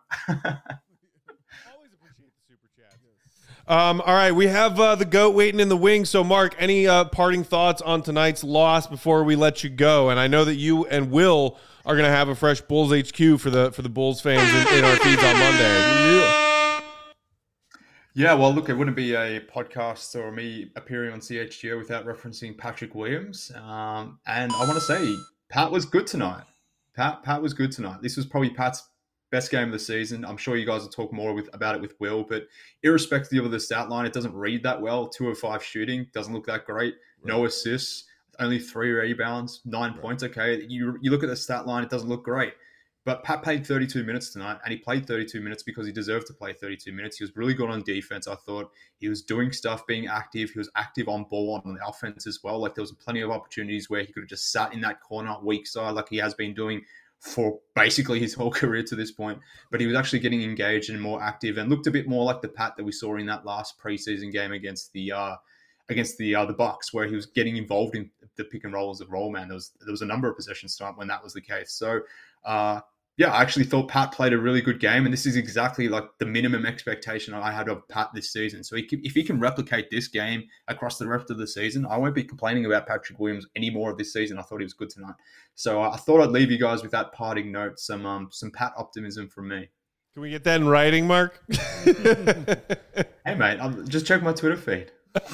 Um, all right, we have uh, the GOAT waiting in the wings. So, Mark, any uh, parting thoughts on tonight's loss before we let you go? And I know that you and Will are going to have a fresh Bulls H Q for the for the Bulls fans in, in our feeds on Monday. Yeah. yeah, well, look, it wouldn't be a podcast or me appearing on C H G O without referencing Patrick Williams. Um, and I want to say, Pat was good tonight. Pat Pat was good tonight. This was probably Pat's best game of the season. I'm sure you guys will talk more with, about it with Will, but irrespective of the stat line, it doesn't read that well. Two of five shooting, doesn't look that great. Right. No assists, only three rebounds, nine right. points. Okay, you you look at the stat line, it doesn't look great. But Pat played thirty-two minutes tonight, and he played thirty-two minutes because he deserved to play thirty-two minutes. He was really good on defense, I thought. He was doing stuff, being active. He was active on ball on the offense as well. Like, there was plenty of opportunities where he could have just sat in that corner, weak side, like he has been doing for basically his whole career to this point. But he was actually getting engaged and more active and looked a bit more like the Pat that we saw in that last preseason game against the uh, against the uh, the Bucks, where he was getting involved in the pick and roll as a roll man. There was there was a number of possessions tonight when that was the case. So uh, yeah, I actually thought Pat played a really good game, and this is exactly like the minimum expectation I had of Pat this season. So he can, if he can replicate this game across the rest of the season, I won't be complaining about Patrick Williams any more of this season. I thought he was good tonight. So I thought I'd leave you guys with that parting note, some um, some Pat optimism from me. Can we get that in writing, Mark? Hey, mate, I'm, just check my Twitter feed.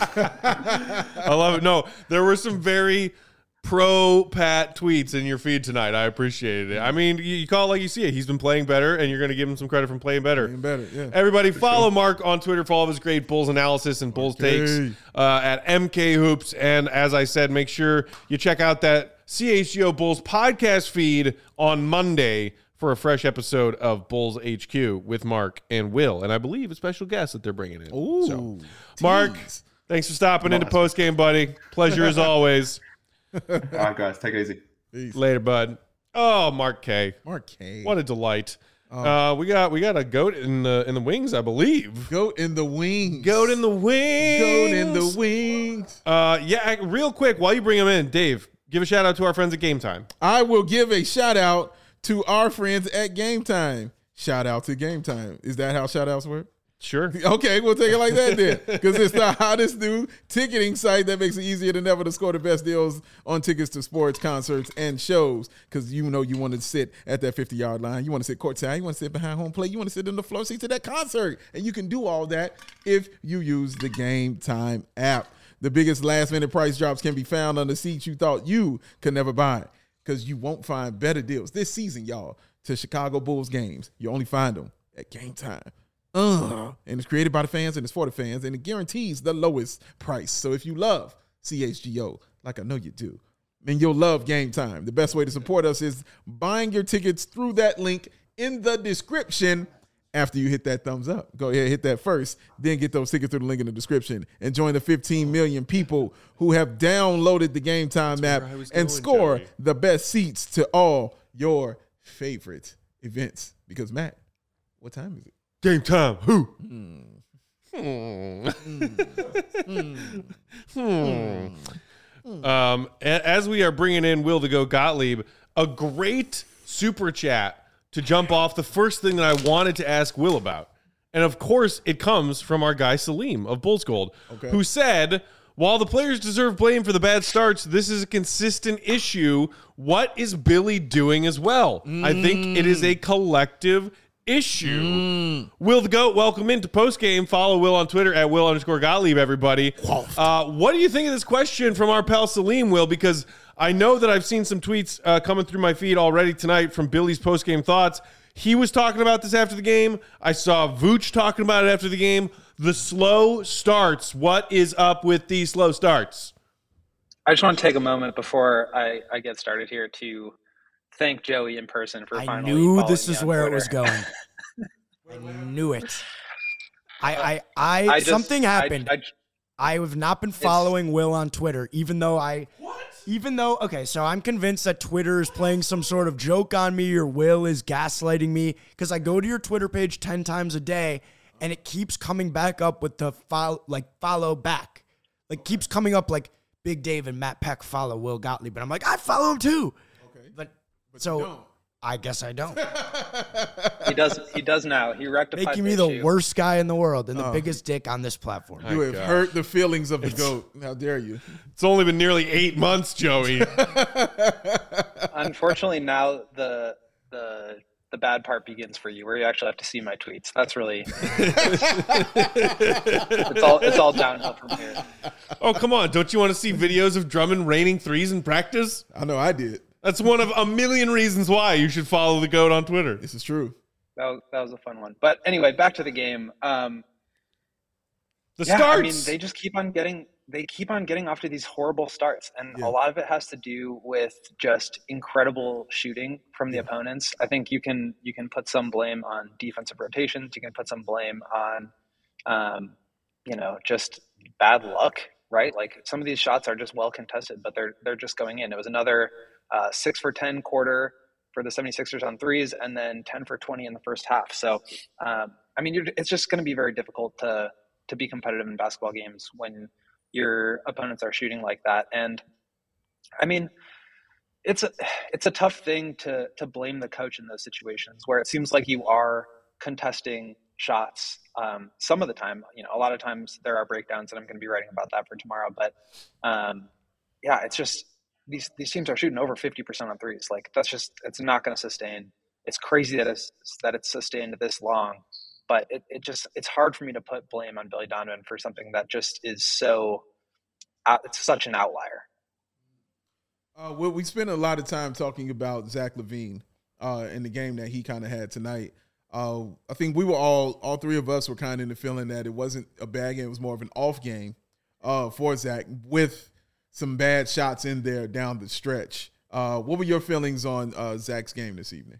I love it. No, there were some very pro Pat tweets in your feed tonight. I appreciated it. I mean, you, you call it like you see it. He's been playing better, and you're going to give him some credit from playing better. Playing better, yeah. Everybody follow Mark on Twitter for all of his great Bulls analysis and Bulls okay. takes uh, at M K Hoops. And as I said, make sure you check out that C H G O Bulls podcast feed on Monday for a fresh episode of Bulls H Q with Mark and Will, and I believe a special guest that they're bringing in. Ooh, so, Mark, thanks for stopping into post game, buddy. Pleasure as always. All right, guys, take it easy. Peace. Later, bud. Oh, Mark K. Mark K. What a delight. Oh. Uh, we got we got a goat in the in the wings, I believe. Goat in the wings. Goat in the wings. Goat in the wings. Uh, yeah, real quick while you bring him in, Dave, give a shout out to our friends at Game Time. I will give a shout out to our friends at Game Time. Shout out to Game Time. Is that how shout outs work? Sure. Okay, we'll take it like that then. Because it's the hottest new ticketing site that makes it easier than ever to score the best deals on tickets to sports, concerts, and shows. Because you know you want to sit at that fifty-yard line. You want to sit courtside. You want to sit behind home plate. You want to sit in the floor seats of that concert. And you can do all that if you use the Game Time app. The biggest last-minute price drops can be found on the seats you thought you could never buy. Because you won't find better deals this season, y'all, to Chicago Bulls games. You only find them at Game Time. Uh, and it's created by the fans and it's for the fans, and it guarantees the lowest price. So if you love C H G O, like I know you do, then you'll love Game Time. The best way to support us is buying your tickets through that link in the description after you hit that thumbs up. Go ahead, hit that first, then get those tickets through the link in the description and join the fifteen million people who have downloaded the Game Time app and going, score Joey. the best seats to all your favorite events. Because, Matt, what time is it? Game time. Who? Hmm. Hmm. Hmm. Um, a- as we are bringing in Will to go Gottlieb, a great super chat to jump off the first thing that I wanted to ask Will about. And of course, it comes from our guy Salim of Bulls Gold, Okay. who said, while the players deserve blame for the bad starts, this is a consistent issue. What is Billy doing as well? I think it is a collective issue. Will the GOAT, welcome into postgame. Follow Will on Twitter at Will underscore Gottlieb, everybody. Uh, what do you think of this question from our pal Salim, Will? Because I know that I've seen some tweets uh, coming through my feed already tonight from Billy's postgame thoughts. He was talking about this after the game. I saw Vooch talking about it after the game. The slow starts. What is up with these slow starts? I just want to take a moment before I, I get started here to thank Joey in person for I finally knew following this me is on where Twitter. it was going. I knew it. I, I, I, I just- something I- happened. I, I have not been following Will on Twitter, even though I, even though, okay, so I'm convinced that Twitter is playing some sort of joke on me or Will is gaslighting me because I go to your Twitter page ten times a day and it keeps coming back up with the follow, like follow back. Like keeps coming up like Big Dave and Matt Peck follow Will Gottlieb. And I'm like, I follow him too. Okay. But, But so you don't. I guess I don't. he does. He does now. He rectified Making me the the issue. worst guy in the world and the Oh. biggest dick on this platform. You have gosh. hurt the feelings of the GOAT. How dare you? It's only been nearly eight months, Joey. Unfortunately, now the the the bad part begins for you, where you actually have to see my tweets. That's really it's all it's all downhill from here. Oh, come on. Don't you want to see videos of Drummond raining threes in practice? I know I did. That's one of a million reasons why you should follow the GOAT on Twitter. This is true. That was, that was a fun one. But anyway, back to the game. Um, The yeah, starts. I mean, they just keep on getting they keep on getting off to these horrible starts, and Yeah. a lot of it has to do with just incredible shooting from the opponents. I think you can you can put some blame on defensive rotations. You can put some blame on, um, you know, just bad luck, right? Like some of these shots are just well contested, but they're they're just going in. It was another uh, six for ten quarter for the 76ers on threes, and then ten for twenty in the first half. So, um, I mean, you're, it's just going to be very difficult to to be competitive in basketball games when your opponents are shooting like that. And I mean, it's a, it's a tough thing to, to blame the coach in those situations where it seems like you are contesting shots. Um, some of the time, you know, a lot of times there are breakdowns, and I'm going to be writing about that for tomorrow, but um, yeah, it's just, these, these teams are shooting over fifty percent on threes. Like that's just, it's not going to sustain. It's crazy that it's, that it's sustained this long. But it, it just it's hard for me to put blame on Billy Donovan for something that just is so out, it's such an outlier. Uh, well, we spent a lot of time talking about Zach LaVine uh, in the game that he kind of had tonight. Uh, I think we were all, all three of us were kind of in the feeling that it wasn't a bad game. It was more of an off game uh, for Zach with some bad shots in there down the stretch. Uh, what were your feelings on uh, Zach's game this evening?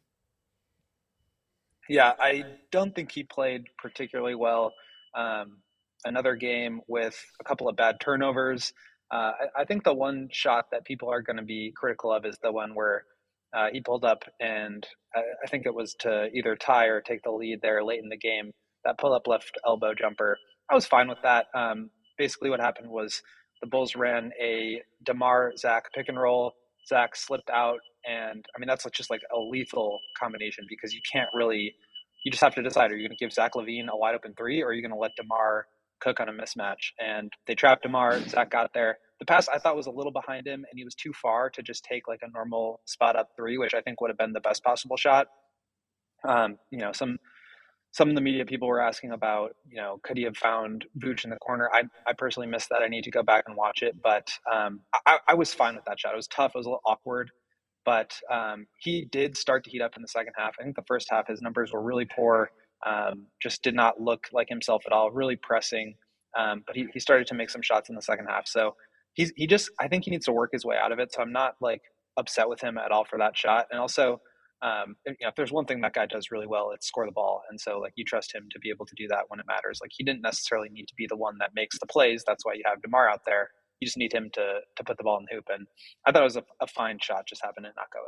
Yeah, I don't think he played particularly well. Um, another game with a couple of bad turnovers. Uh, I, I think the one shot that people are going to be critical of is the one where uh, he pulled up and I, I think it was to either tie or take the lead there late in the game. That pull-up left elbow jumper. I was fine with that. Um, basically what happened was the Bulls ran a DeMar Zach pick and roll. Zach slipped out, and I mean that's just like a lethal combination because you can't really. You just have to decide: are you going to give Zach LaVine a wide open three, or are you going to let DeMar cook on a mismatch? And they trapped DeMar. Zach got there. The pass I thought was a little behind him, and he was too far to just take like a normal spot up three, which I think would have been the best possible shot. Um, you know, some some of the media people were asking about, you know, could he have found Vooch in the corner? I, I personally missed that. I need to go back and watch it, but um, I, I was fine with that shot. It was tough. It was a little awkward, but um, he did start to heat up in the second half. I think the first half, his numbers were really poor. Um, just did not look like himself at all, really pressing. Um, but he, he started to make some shots in the second half. So he's, he just, I think he needs to work his way out of it. So I'm not like upset with him at all for that shot. And also, Um, you know, if there's one thing that guy does really well, it's score the ball. And so like you trust him to be able to do that when it matters. Like he didn't necessarily need to be the one that makes the plays. That's why you have DeMar out there. You just need him to to put the ball in the hoop. And I thought it was a, a fine shot, just happened to not go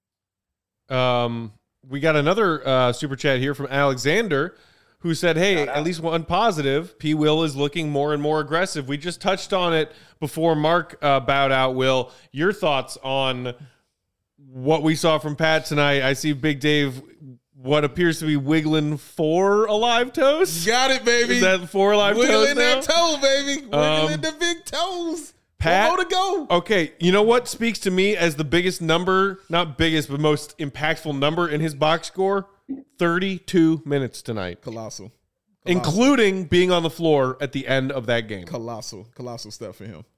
in. Um, we got another uh, super chat here from Alexander, who said, hey, at least one positive, P. Will is looking more and more aggressive. We just touched on it before Mark uh, bowed out. Will, your thoughts on what we saw from Pat tonight? I see Big Dave, what appears to be wiggling four alive toes. Got it, baby. Is that four alive Wiggling toes now? that toe, baby. Wiggling Um, the big toes. Pat, One more to go. Okay, you know what speaks to me as the biggest number, not biggest, but most impactful number in his box score? thirty-two minutes tonight. Colossal. Colossal. Including being on the floor at the end of that game. Colossal. Colossal stuff for him.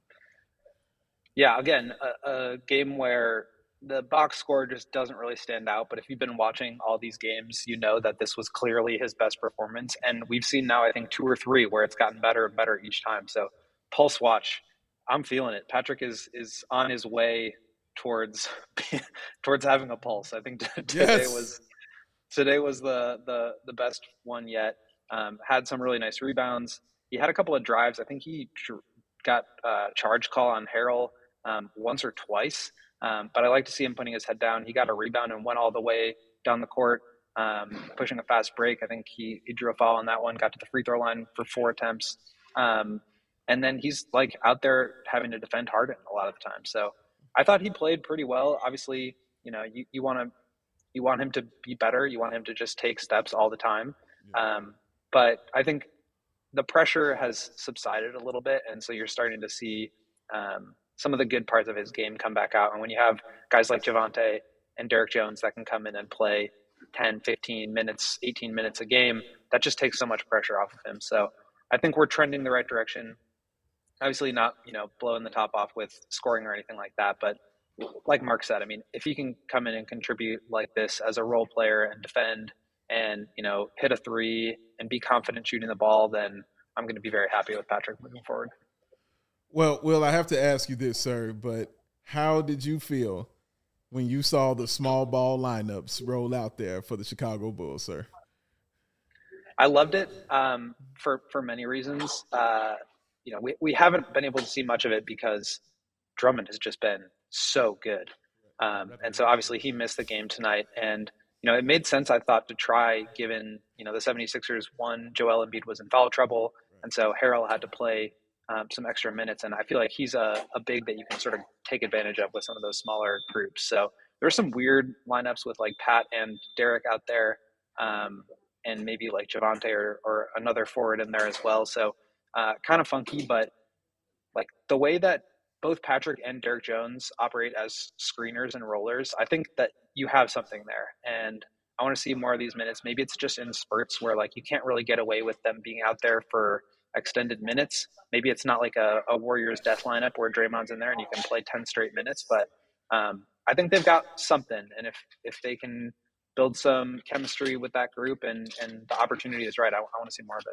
Yeah, again, a, a game where the box score just doesn't really stand out. But if you've been watching all these games, you know that this was clearly his best performance. And we've seen now, I think, two or three where it's gotten better and better each time. So pulse watch, I'm feeling it. Patrick is is on his way towards towards having a pulse. I think t- today Yes. was today was the the the best one yet. Um, had some really nice rebounds. He had a couple of drives. I think he tr- got a charge call on Harrell um, once or twice. Um, but I like to see him putting his head down. He got a rebound and went all the way down the court, um, pushing a fast break. I think he, he drew a foul on that one, got to the free throw line for four attempts. Um, and then he's like out there having to defend Harden a lot of the time. So I thought he played pretty well. Obviously, you know, you, you want to, you want him to be better. You want him to just take steps all the time. Um, but I think the pressure has subsided a little bit. And so you're starting to see, um, some of the good parts of his game come back out. And when you have guys like Javonte and Derek Jones that can come in and play ten, fifteen minutes, eighteen minutes a game, that just takes so much pressure off of him. So I think we're trending the right direction. Obviously not, you know, blowing the top off with scoring or anything like that. But like Mark said, I mean, if he can come in and contribute like this as a role player and defend and, you know, hit a three and be confident shooting the ball, then I'm going to be very happy with Patrick moving forward. Well, Will, I have to ask you this, sir, but how did you feel when you saw the small ball lineups roll out there for the Chicago Bulls, sir? I loved it um, for, for many reasons. Uh, you know, we, we haven't been able to see much of it because Drummond has just been so good. Um, and so obviously he missed the game tonight. And, you know, it made sense, I thought, to try given, you know, the 76ers, one, Joel Embiid was in foul trouble. And so Harrell had to play Um, some extra minutes, and I feel like he's a, a big that you can sort of take advantage of with some of those smaller groups. So there's some weird lineups with like Pat and Derek out there, um, and maybe like Javonte or, or another forward in there as well. So uh, kind of funky, but like the way that both Patrick and Derek Jones operate as screeners and rollers, I think that you have something there. And I want to see more of these minutes. Maybe it's just in spurts where like you can't really get away with them being out there for extended minutes. Maybe it's not like a, a Warriors death lineup where Draymond's in there and you can play ten straight minutes, but um, I think they've got something. And if, if they can build some chemistry with that group and, and the opportunity is right, I, I want to see more of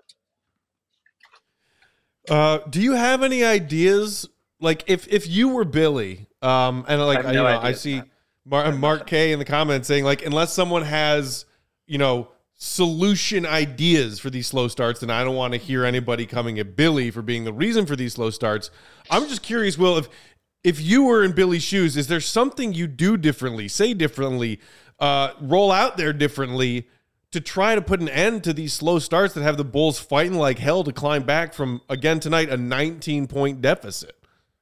it. Uh, do you have any ideas? Like if, if you were Billy, um, and like, I have you no know, I ideas, see Matt. Mark, Mark K in the comments saying like, unless someone has, you know, solution ideas for these slow starts, and I don't want to hear anybody coming at Billy for being the reason for these slow starts. I'm just curious, Will, if if you were in Billy's shoes, is there something you do differently, say differently, uh, roll out there differently to try to put an end to these slow starts that have the Bulls fighting like hell to climb back from, again tonight, a nineteen-point deficit?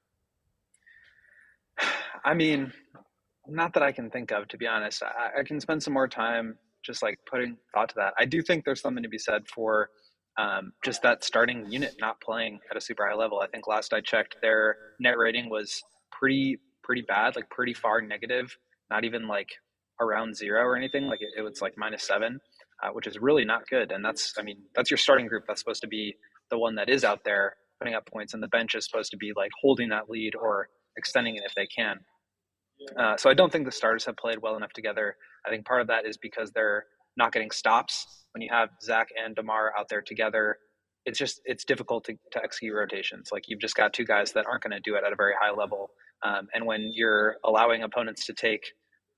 I mean, not that I can think of, to be honest. I, I can spend some more time just like putting thought to that. I do think there's something to be said for um, just that starting unit not playing at a super high level. I think last I checked, their net rating was pretty, pretty bad, like pretty far negative, not even like around zero or anything. Like it, it was like minus seven, uh, which is really not good. And that's, I mean, that's your starting group. That's supposed to be the one that is out there putting up points, and the bench is supposed to be like holding that lead or extending it if they can. Uh, so I don't think the starters have played well enough together. I think part of that is because they're not getting stops. When you have Zach and DeMar out there together, it's just, it's difficult to, to execute rotations. Like you've just got two guys that aren't going to do it at a very high level. Um, and when you're allowing opponents to take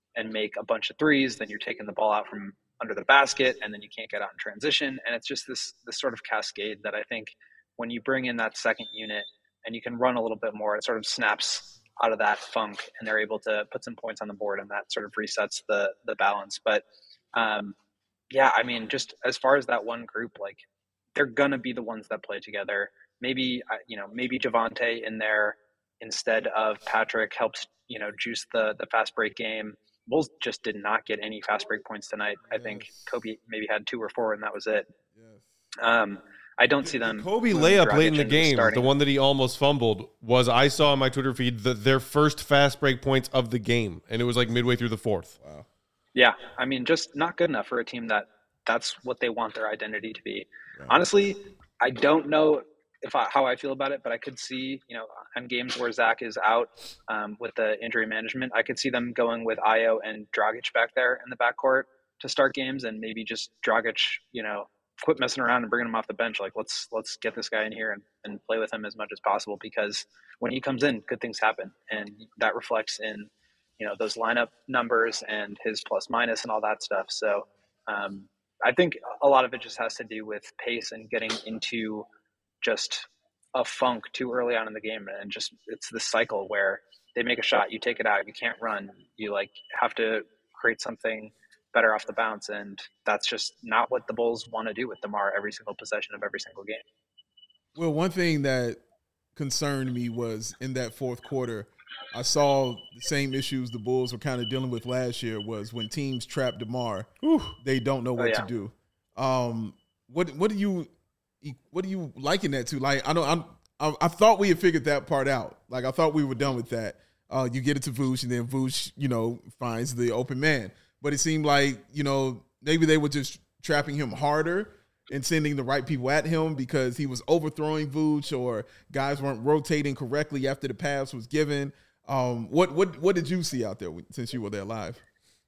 and make a bunch of threes, then you're taking the ball out from under the basket, and then you can't get out in transition. And it's just this this sort of cascade that I think when you bring in that second unit and you can run a little bit more, it sort of snaps out of that funk, and they're able to put some points on the board, and that sort of resets the the balance. But um, yeah, I mean, just as far as that one group, like they're gonna be the ones that play together. Maybe you know, maybe Javonte in there instead of Patrick helps you know juice the the fast break game. Bulls just did not get any fast break points tonight. Yes. I think Kobe maybe had two or four, and that was it. Yes. Um, I don't see them. The Kobe layup late in the game, the one that he almost fumbled, was I saw on my Twitter feed the, their first fast break points of the game, and it was like midway through the fourth. Wow. Yeah, I mean, just not good enough for a team that that's what they want their identity to be. Right. Honestly, I don't know if I, how I feel about it, but I could see, you know, on games where Zach is out um, with the injury management, I could see them going with Ayo and Dragic back there in the backcourt to start games, and maybe just Dragic, you know, quit messing around and bringing him off the bench. Like, let's let's get this guy in here and, and play with him as much as possible, because when he comes in, good things happen, and that reflects in, you know, those lineup numbers and his plus minus and all that stuff. So um, I think a lot of it just has to do with pace and getting into just a funk too early on in the game. And just, it's this cycle where they make a shot, you take it out, you can't run, you like have to create something better off the bounce. And that's just not what the Bulls want to do with DeMar every single possession of every single game. Well, one thing that concerned me was in that fourth quarter, I saw the same issues the Bulls were kind of dealing with last year, was when teams trap DeMar, whew, they don't know what oh, yeah. to do. Um, what what do you what do you liken that to? Like, I know I'm I, I thought we had figured that part out. Like, I thought we were done with that. Uh, you get it to Vooch, and then Vooch, you know, finds the open man. But it seemed like, you know, maybe they were just trapping him harder and sending the right people at him because he was overthrowing Vooch, or guys weren't rotating correctly after the pass was given. Um, what what what did you see out there since you were there live?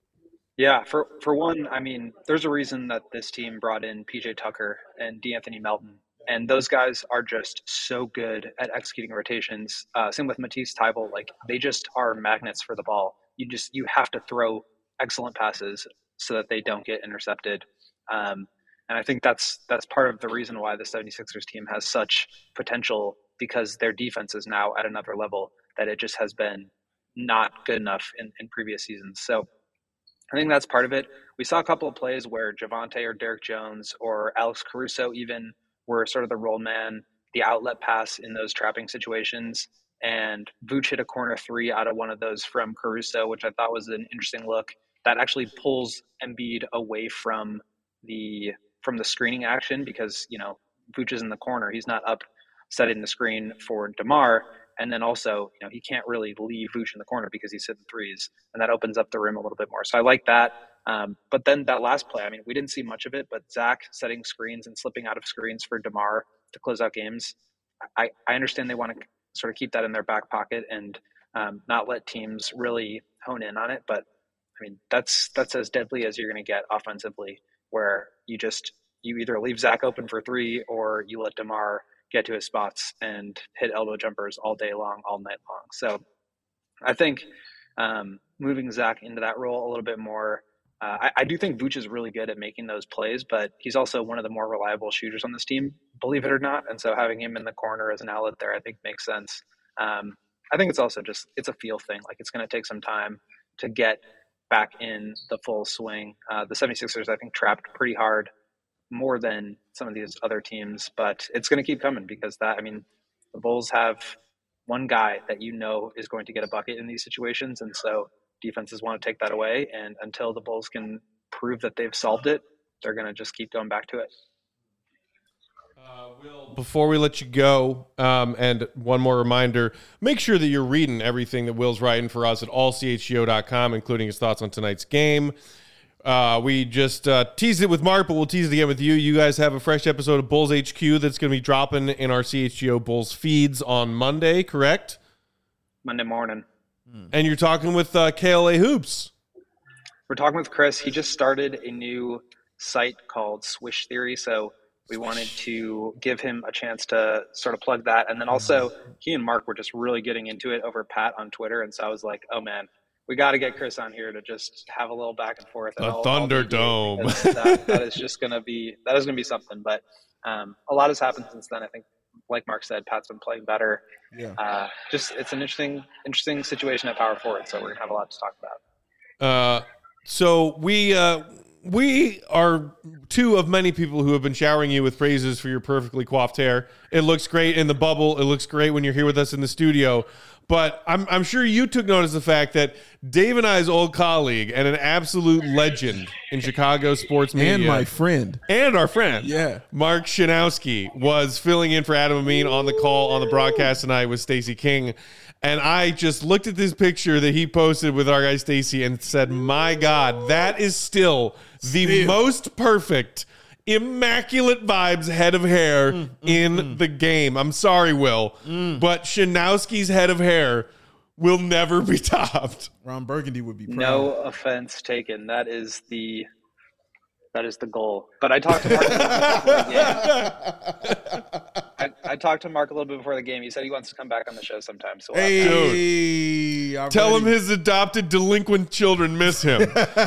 Yeah, for for one, I mean, there's a reason that this team brought in P J Tucker and DeAnthony Melton, and those guys are just so good at executing rotations. Uh, same with Matisse Thybulle, like they just are magnets for the ball. You just you have to throw excellent passes so that they don't get intercepted. Um, and I think that's that's part of the reason why the 76ers team has such potential, because their defense is now at another level that it just has been not good enough in, in previous seasons. So I think that's part of it. We saw a couple of plays where Javonte or Derek Jones or Alex Caruso even were sort of the roll man, the outlet pass in those trapping situations. And Vooch hit a corner three out of one of those from Caruso, which I thought was an interesting look. That actually pulls Embiid away from the from the screening action, because, you know, Vooch is in the corner. He's not up setting the screen for DeMar. And then also, you know, he can't really leave Vooch in the corner because he's hitting threes, and that opens up the rim a little bit more. So I like that. Um, but then that last play, I mean, we didn't see much of it, but Zach setting screens and slipping out of screens for DeMar to close out games. I, I understand they want to sort of keep that in their back pocket and um, not let teams really hone in on it. But I mean, that's, that's as deadly as you're going to get offensively, where you just, you either leave Zach open for three or you let DeMar get to his spots and hit elbow jumpers all day long, all night long. So I think um, moving Zach into that role a little bit more, uh, I, I do think Vooch is really good at making those plays, but he's also one of the more reliable shooters on this team, believe it or not. And so having him in the corner as an outlet there, I think makes sense. Um, I think it's also just, it's a feel thing. Like, it's going to take some time to get back in the full swing. Uh, the 76ers, I think, trapped pretty hard, more than some of these other teams, but it's going to keep coming, because that, I mean, the Bulls have one guy that you know is going to get a bucket in these situations. And so defenses want to take that away. And until the Bulls can prove that they've solved it, they're going to just keep going back to it. Uh, Will, before we let you go, um, and one more reminder, make sure that you're reading everything that Will's writing for us at all c h g o dot com, including his thoughts on tonight's game. Uh, we just uh, teased it with Mark, but we'll tease it again with you. You guys have a fresh episode of Bulls H Q that's going to be dropping in our C H G O Bulls feeds on Monday, correct? Monday morning. And you're talking with uh, K L A Hoops. We're talking with Chris. He just started a new site called Swish Theory, so we wanted to give him a chance to sort of plug that. And then also, he and Mark were just really getting into it over Pat on Twitter, and so I was like, oh, man, we got to get Chris on here to just have a little back and forth. The Thunderdome. That, that is just going to be that is going to be something. But um, a lot has happened since then. I think, like Mark said, Pat's been playing better. Yeah. Uh, just it's an interesting interesting situation at power forward. So we're gonna have a lot to talk about. Uh, so we uh, we are two of many people who have been showering you with praises for your perfectly coiffed hair. It looks great in the bubble. It looks great when you're here with us in the studio. But I'm, I'm sure you took notice of the fact that Dave and I's old colleague and an absolute legend in Chicago sports media. And my friend. And our friend. Yeah. Mark Shanowski was filling in for Adam Amin on the call on the broadcast tonight with Stacey King. And I just looked at this picture that he posted with our guy Stacey and said, my God, that is still the Still. most perfect, immaculate vibes head of hair mm, in mm, the game. I'm sorry, Will, mm. but Shanowski's head of hair will never be topped. Ron Burgundy would be proud. No offense taken. That is the that is the goal. But I talked to Mark a little bit before the game. I, I talked to Mark a little bit before the game. He said he wants to come back on the show sometime. So we'll hey, Dude, tell him his adopted delinquent children miss him.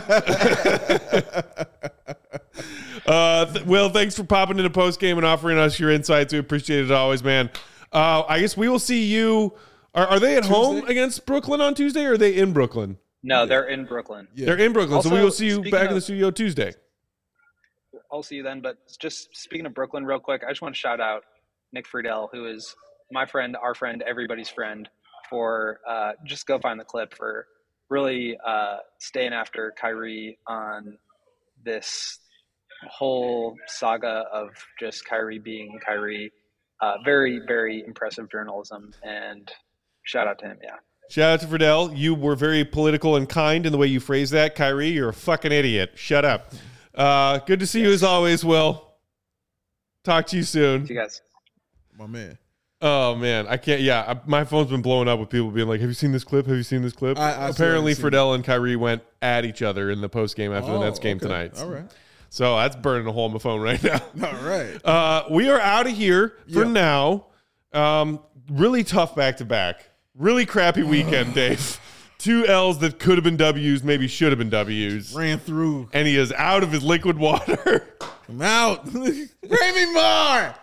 Uh, th- Will, thanks for popping into post game and offering us your insights. We appreciate it always, man. Uh, I guess we will see you. Are, are they at Tuesday? home against Brooklyn on Tuesday, or are they in Brooklyn? No, yeah. they're in Brooklyn. Yeah. They're in Brooklyn, also, so we will see you back of, in the studio Tuesday. I'll see you then. But just speaking of Brooklyn, real quick, I just want to shout out Nick Friedel, who is my friend, our friend, everybody's friend. For uh, just go find the clip for really uh, staying after Kyrie on this whole saga of just Kyrie being Kyrie. Uh, very, very impressive journalism, and shout out to him. Yeah. Shout out to Friedel. You were very political and kind in the way you phrased that. Kyrie, you're a fucking idiot. Shut up. Uh, good to see yes. you as always, Will. Talk to you soon. See you guys. My man. Oh, man. I can't. Yeah. I, my phone's been blowing up with people being like, have you seen this clip? Have you seen this clip? I, I Apparently, Friedel and Kyrie went at each other in the post game after oh, the Nets game okay. tonight. All right. So that's burning a hole in my phone right now. All right. Uh, we are out of here for yeah. now. Um, really tough back-to-back. Really crappy weekend, Dave. Two L's that could have been W's, maybe should have been W's. Ran through. And he is out of his liquid water. I'm out. Bring me more.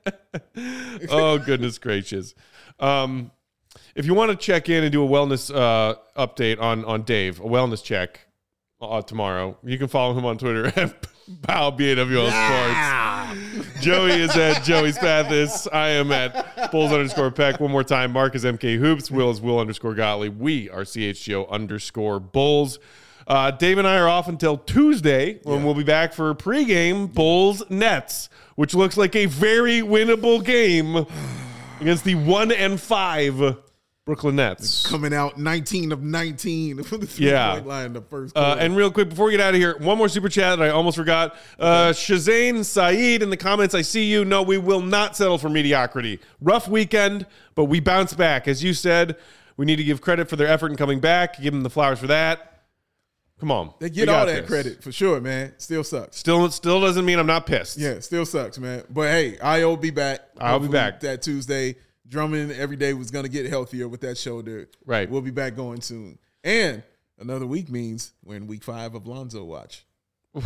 Oh, goodness gracious. Um, if you want to check in and do a wellness uh, update on, on Dave, a wellness check uh, tomorrow, you can follow him on Twitter at Pow B A W L yeah. Sports. Joey is at Joey Spathis. I am at Bulls underscore Peck. One more time. Mark is M K Hoops. Will is Will underscore Gottlieb. We are C H G O underscore Bulls. Uh, Dave and I are off until Tuesday when yeah. we'll be back for pregame Bulls Nets, which looks like a very winnable game against the one and five Brooklyn Nets. Coming out nineteen of nineteen from the three-point yeah. line in the first uh, and real quick, before we get out of here, one more super chat that I almost forgot. Uh, Shazane Saeed in the comments, I see you. No, we will not settle for mediocrity. Rough weekend, but we bounce back. As you said, we need to give credit for their effort in coming back. Give them the flowers for that. Come on. They get all that this. credit for sure, man. Still sucks. Still still doesn't mean I'm not pissed. Yeah, still sucks, man. But hey, I'll be back. I'll be back. That Tuesday. Drummond every day was going to get healthier with that shoulder. Right. We'll be back going soon. And another week means we're in week five of Lonzo Watch. I,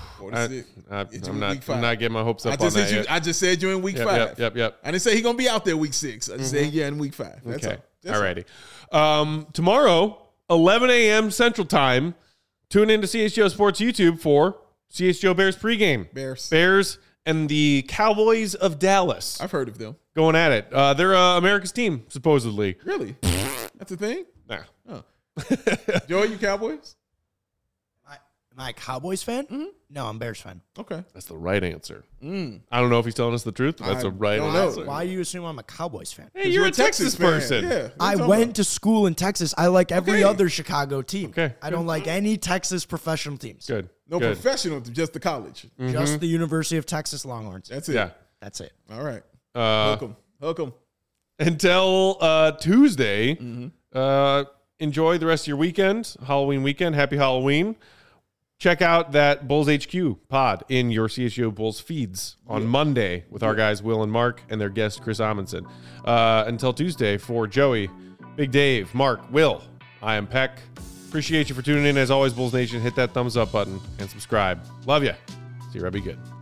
I, I'm, not, I'm not getting my hopes up I just on that you, yet. I just said you're in week yep, five. Yep, yep, yep. I didn't say he's going to be out there week six. I just mm-hmm. said, yeah, in week five. That's okay. all. That's all righty. Um, tomorrow, eleven a.m. Central Time, tune into C H G O Sports YouTube for C H G O Bears pregame. Bears. Bears and the Cowboys of Dallas. I've heard of them. Going at it. Uh, they're uh, America's team, supposedly. Really? That's a thing? Nah. Oh. Joey, you Cowboys? I, am I a Cowboys fan? Mm-hmm. No, I'm Bears fan. Okay. That's the right answer. Mm. I don't know if he's telling us the truth, but that's I a right don't answer. know. Why do you assume I'm a Cowboys fan? Hey, you're, you're a Texas, Texas person. Yeah, I went about? to school in Texas. I like every Okay. other Chicago team. Okay. I don't like any Texas professional teams. Good. No Good. professional, just the college. Mm-hmm. Just the University of Texas Longhorns. That's it. Yeah. That's it. All right. Uh, Hook 'em. Hook 'em. Until uh, Tuesday, Mm-hmm. uh, enjoy the rest of your weekend, Halloween weekend. Happy Halloween. Check out that Bulls H Q pod in your C H G O Bulls feeds on yeah. Monday with our guys Will and Mark and their guest Chris Amundsen. Uh, until Tuesday, for Joey, Big Dave, Mark, Will, I am Peck. Appreciate you for tuning in. As always, Bulls Nation, hit that thumbs up button and subscribe. Love you. See you, Robbie. Good.